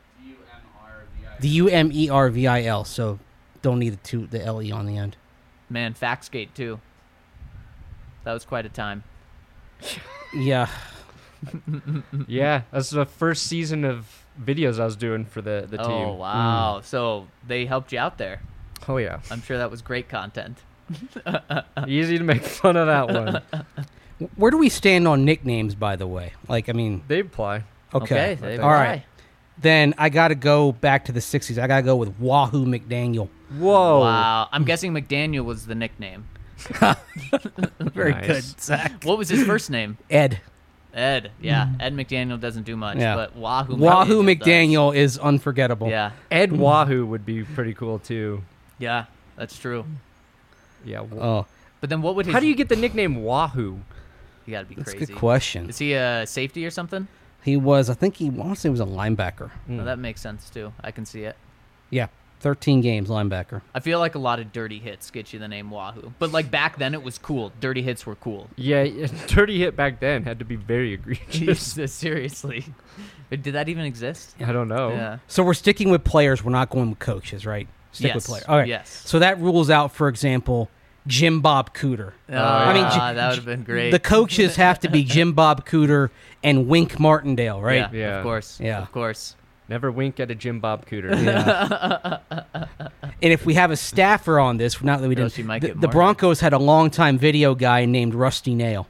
Dumervil. Dumervil, so don't need the LE on the end. Man, Faxgate too. That was quite a time. Yeah. Yeah, that's the first season of videos I was doing for the team. Oh wow! So they helped you out there. Oh yeah. I'm sure that was great content. Easy to make fun of that one. Where do we stand on nicknames, by the way? Like, I mean, They apply. okay. they All right. apply. Then I got to go back to the 60s. I got to go with Wahoo McDaniel. Whoa. Wow. I'm guessing McDaniel was the nickname. Very Nice. good, Zach. What was his first name? Ed. Ed. Yeah. Ed McDaniel doesn't do much, Yeah. but Wahoo Wahoo does. McDaniel is unforgettable. Yeah. Ed Wahoo would be pretty cool too. Yeah. That's true. Yeah. Oh, But then what would his? How do you get the nickname Wahoo? You gotta be that's a crazy. good question. Is he a safety or something? He was, I think he honestly was a linebacker. No, that makes sense too. I can see it. Yeah, 13 games linebacker. I feel like a lot of dirty hits get you the name Wahoo. But like back then it was cool. Dirty hits were cool. Yeah, dirty hit back then had to be very egregious. Seriously. Did that even exist? I don't know. Yeah. So we're sticking with players. We're not going with coaches, right? Stick with Yes, players. All right. yes. So that rules out, for example, Jim Bob Cooter. I mean, that would have been great. The coaches have to be Jim Bob Cooter and Wink Martindale, right? Yeah, Yeah. of course. Yeah. Of course. Never wink at a Jim Bob Cooter. Yeah. And if we have a staffer on this, not that we Girl, didn't. she might The, get the more. Broncos had a longtime video guy named Rusty Nail.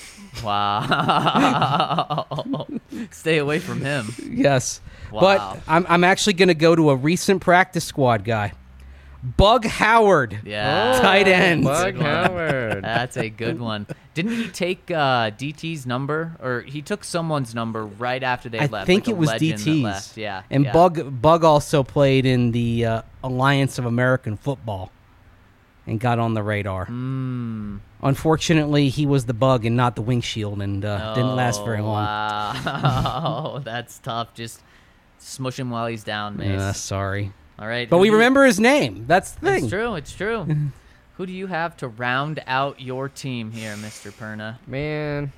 Wow. Stay away from him. Yes. Wow. But I'm actually going to go to a recent practice squad guy. Bug Howard. Yeah. Tight end. Bug Good one. Howard. That's a good one. Didn't he take DT's number? Or he took someone's number right after they I left? think like it a was legend that DT's. left. Yeah. And yeah. Bug also played in the Alliance of American Football. and got on the radar. Unfortunately, he was the bug and not the windshield, and didn't last very long. Wow, that's tough. Just smush him while he's down, Mace. Sorry. All right. But who we do you- remember his name. That's the thing. It's true. It's true. Who do you have to round out your team here, Mr. Perna? Man.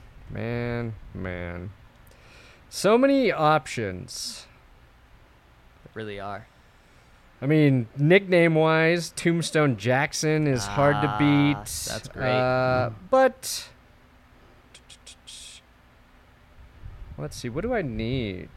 So many options. There really are. I mean, nickname-wise, Tombstone Jackson is hard to beat. That's great. But let's see. What do I need?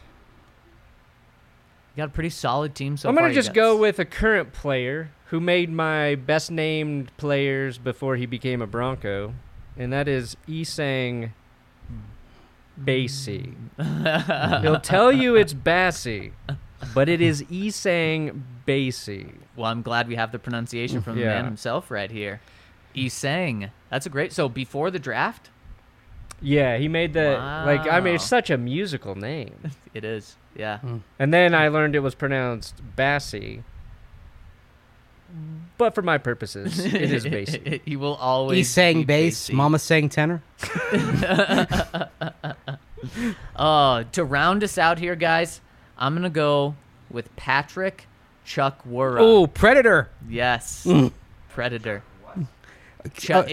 You got a pretty solid team so I'm far. going to You just got- go with a current player who made my best-named players before he became a Bronco, and that is Isang Bassey. He'll tell you it's Bassey, but it is Isang Bassey. Well, I'm glad we have the pronunciation from the Yeah. man himself right here. Isang. That's a great. So before the draft, Yeah, he made the I mean, it's Wow. such a musical name. it is. Yeah. And then I learned it was pronounced Bassey. But for my purposes, it is Bassey. He will always. He sang be bass, Basie. Mama sang tenor. To round us out here, guys, I'm gonna go with Patrick Chukwura. Oh, Predator. Yes, Predator. CHUKWURAH.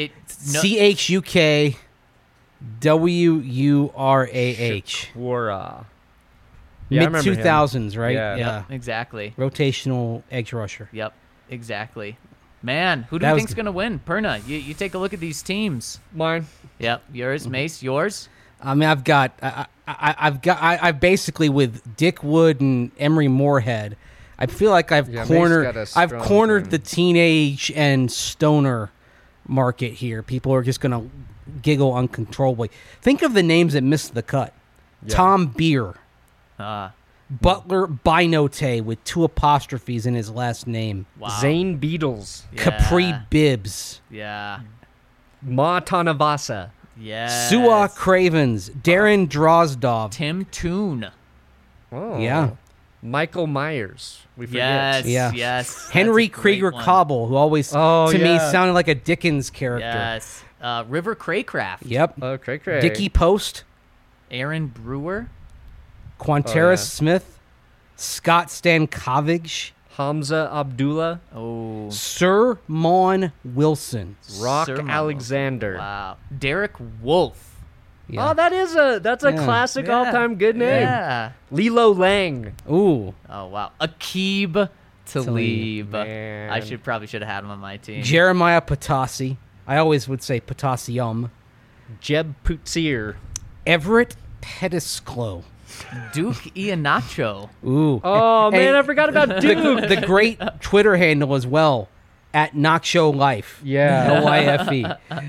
Wara. Yeah, I Mid remember him. 2000s, right? Yeah. Exactly. Rotational edge rusher. Yep. Exactly. Man, who do That you was think's good. gonna win? Perna, you take a look at these teams. Mine. Yep. Yours, Mace. Yours. I mean, I've basically with Dick Wood and Emery Moorhead. I feel like I've Yeah, Mace cornered. got a I've strong cornered team. the teenage and stoner market here. People are just gonna giggle uncontrollably. Think of the names that missed the cut: Yeah. Tom Beer, Uh, Butler Binote with 2 apostrophes in his last name, wow. Zane Beatles. Yeah. Capri Bibbs, Yeah. Ma Tanavasa. Yeah. Suwa Cravens, Darren Drozdov. Tim Toon. Oh. Yeah. Michael Myers. We forget. Yes. Yeah. Yes. Henry That's a great Krieger one. Cobble, who always Oh, to me yeah. sounded like a Dickens character. Yes. River Craycraft. Yep. Oh, cray. Dickie Post, Aaron Brewer. Quanteris Oh, yeah. Smith, Scott Stankovic, Hamza Abdullah. Oh. Sir Mon Wilson. Rock Sir Mom. Alexander. Wow. Derek Wolf. Yeah. Oh, that's a Yeah. classic Yeah. all-time good name. Yeah. Lilo Lang. Ooh. Oh wow. Akib Talib. Man. I probably should have had him on my team. Jeremiah Patasi. I always would say Patasium. Jeb Putsier. Everett Pettisclo. Duke Ianacho. Ooh. Oh, And- man, I forgot about Duke. the great Twitter handle as well, at Knockshow Life. Yeah. Life.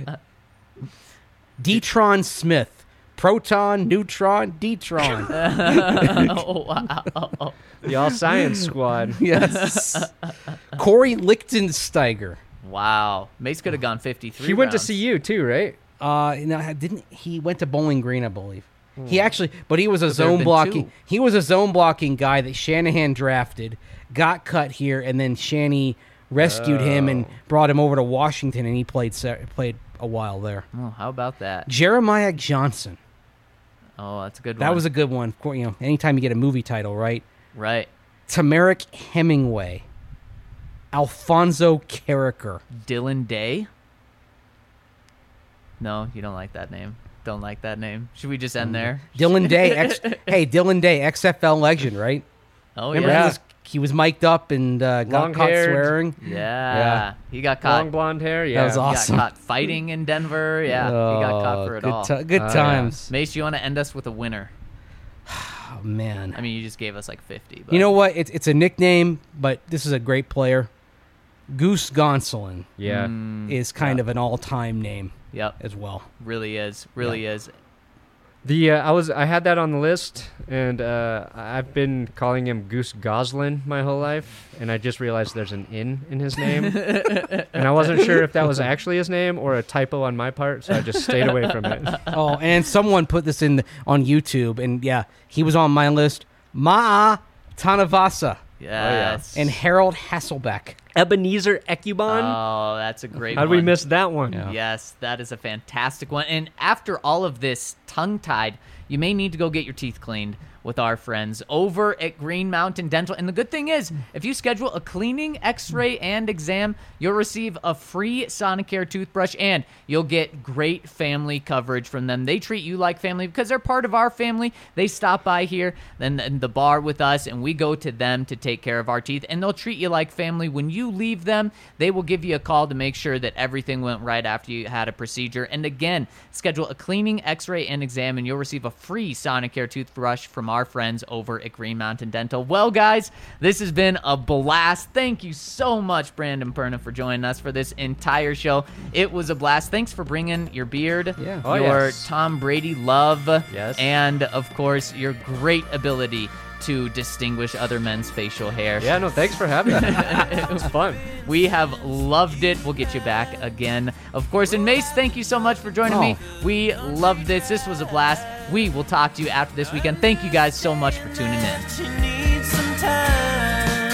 Detron Smith. Proton, neutron, Detron. Oh wow. The All Science Squad. Yes. Corey Lichtensteiger. Wow. Mace could have gone 53. He went to rounds. see you, too, right? No, didn't he went to Bowling Green, I believe. He actually, but he was a there have zone been blocking. 2. He was a zone blocking guy that Shanahan drafted, got cut here, and then Shanny rescued him and brought him over to Washington, and he played a while there. Oh, how about that? Jeremiah Johnson. Oh, that's a good one. That was a good one. Of course, anytime you get a movie title, right? right. Tamarick Hemingway. Alfonso Carricker. Dylan Day. No, you don't like that name. Don't like that name. Should we just end there? Dylan Day. Dylan Day, XFL legend, right? Oh Remember yeah. he was mic'd up and got caught Long-haired. swearing. Yeah. He got Long caught. blonde hair. Yeah. That was He awesome. got caught fighting in Denver. Yeah. He got caught for it all. Good Oh, yeah. times. Mace, you want to end us with a winner? Oh man. I mean, you just gave us like 50. But You know what? It's a nickname, but this is a great player. Goose Gonsolin Yeah. is kind of an all-time name Yep. as well. Really is. Really is. I had that on the list, and I've been calling him Goose Goslin my whole life, and I just realized there's an in his name, and I wasn't sure if that was actually his name or a typo on my part, so I just stayed away from it. Oh, and someone put this on YouTube, and yeah, he was on my list. Ma'a Tanavasa Yes. and Harold Hasselbeck. Ebenezer Ecubon. Oh, that's a great How'd one. we miss that one? Yeah. Yes, that is a fantastic one. And after all of this tongue-tied, you may need to go get your teeth cleaned with our friends over at Green Mountain Dental. And the good thing is, if you schedule a cleaning, x-ray, and exam, you'll receive a free Sonicare toothbrush, and you'll get great family coverage from them. They treat you like family because they're part of our family. They stop by here, then in the bar with us, and we go to them to take care of our teeth, and they'll treat you like family. When you leave them, they will give you a call to make sure that everything went right after you had a procedure. And again, schedule a cleaning, x-ray, and exam, and you'll receive a free Sonicare toothbrush from our friends over at Green Mountain Dental. Well, guys, this has been a blast. Thank you so much, Brandon Perna, for joining us for this entire show. It was a blast. Thanks for bringing your beard, Yeah. Oh, your yes. Tom Brady love, Yes. and, of course, your great ability to distinguish other men's facial hair. Yeah, no, thanks for having me. It was fun. We have loved it. We'll get you back again, of course. And Mace, thank you so much for joining me. We loved this. This was a blast. We will talk to you after this weekend. Thank you guys so much for tuning in. She needs some time.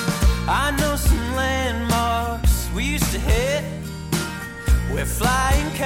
I know some landmarks we used to hit. We're flying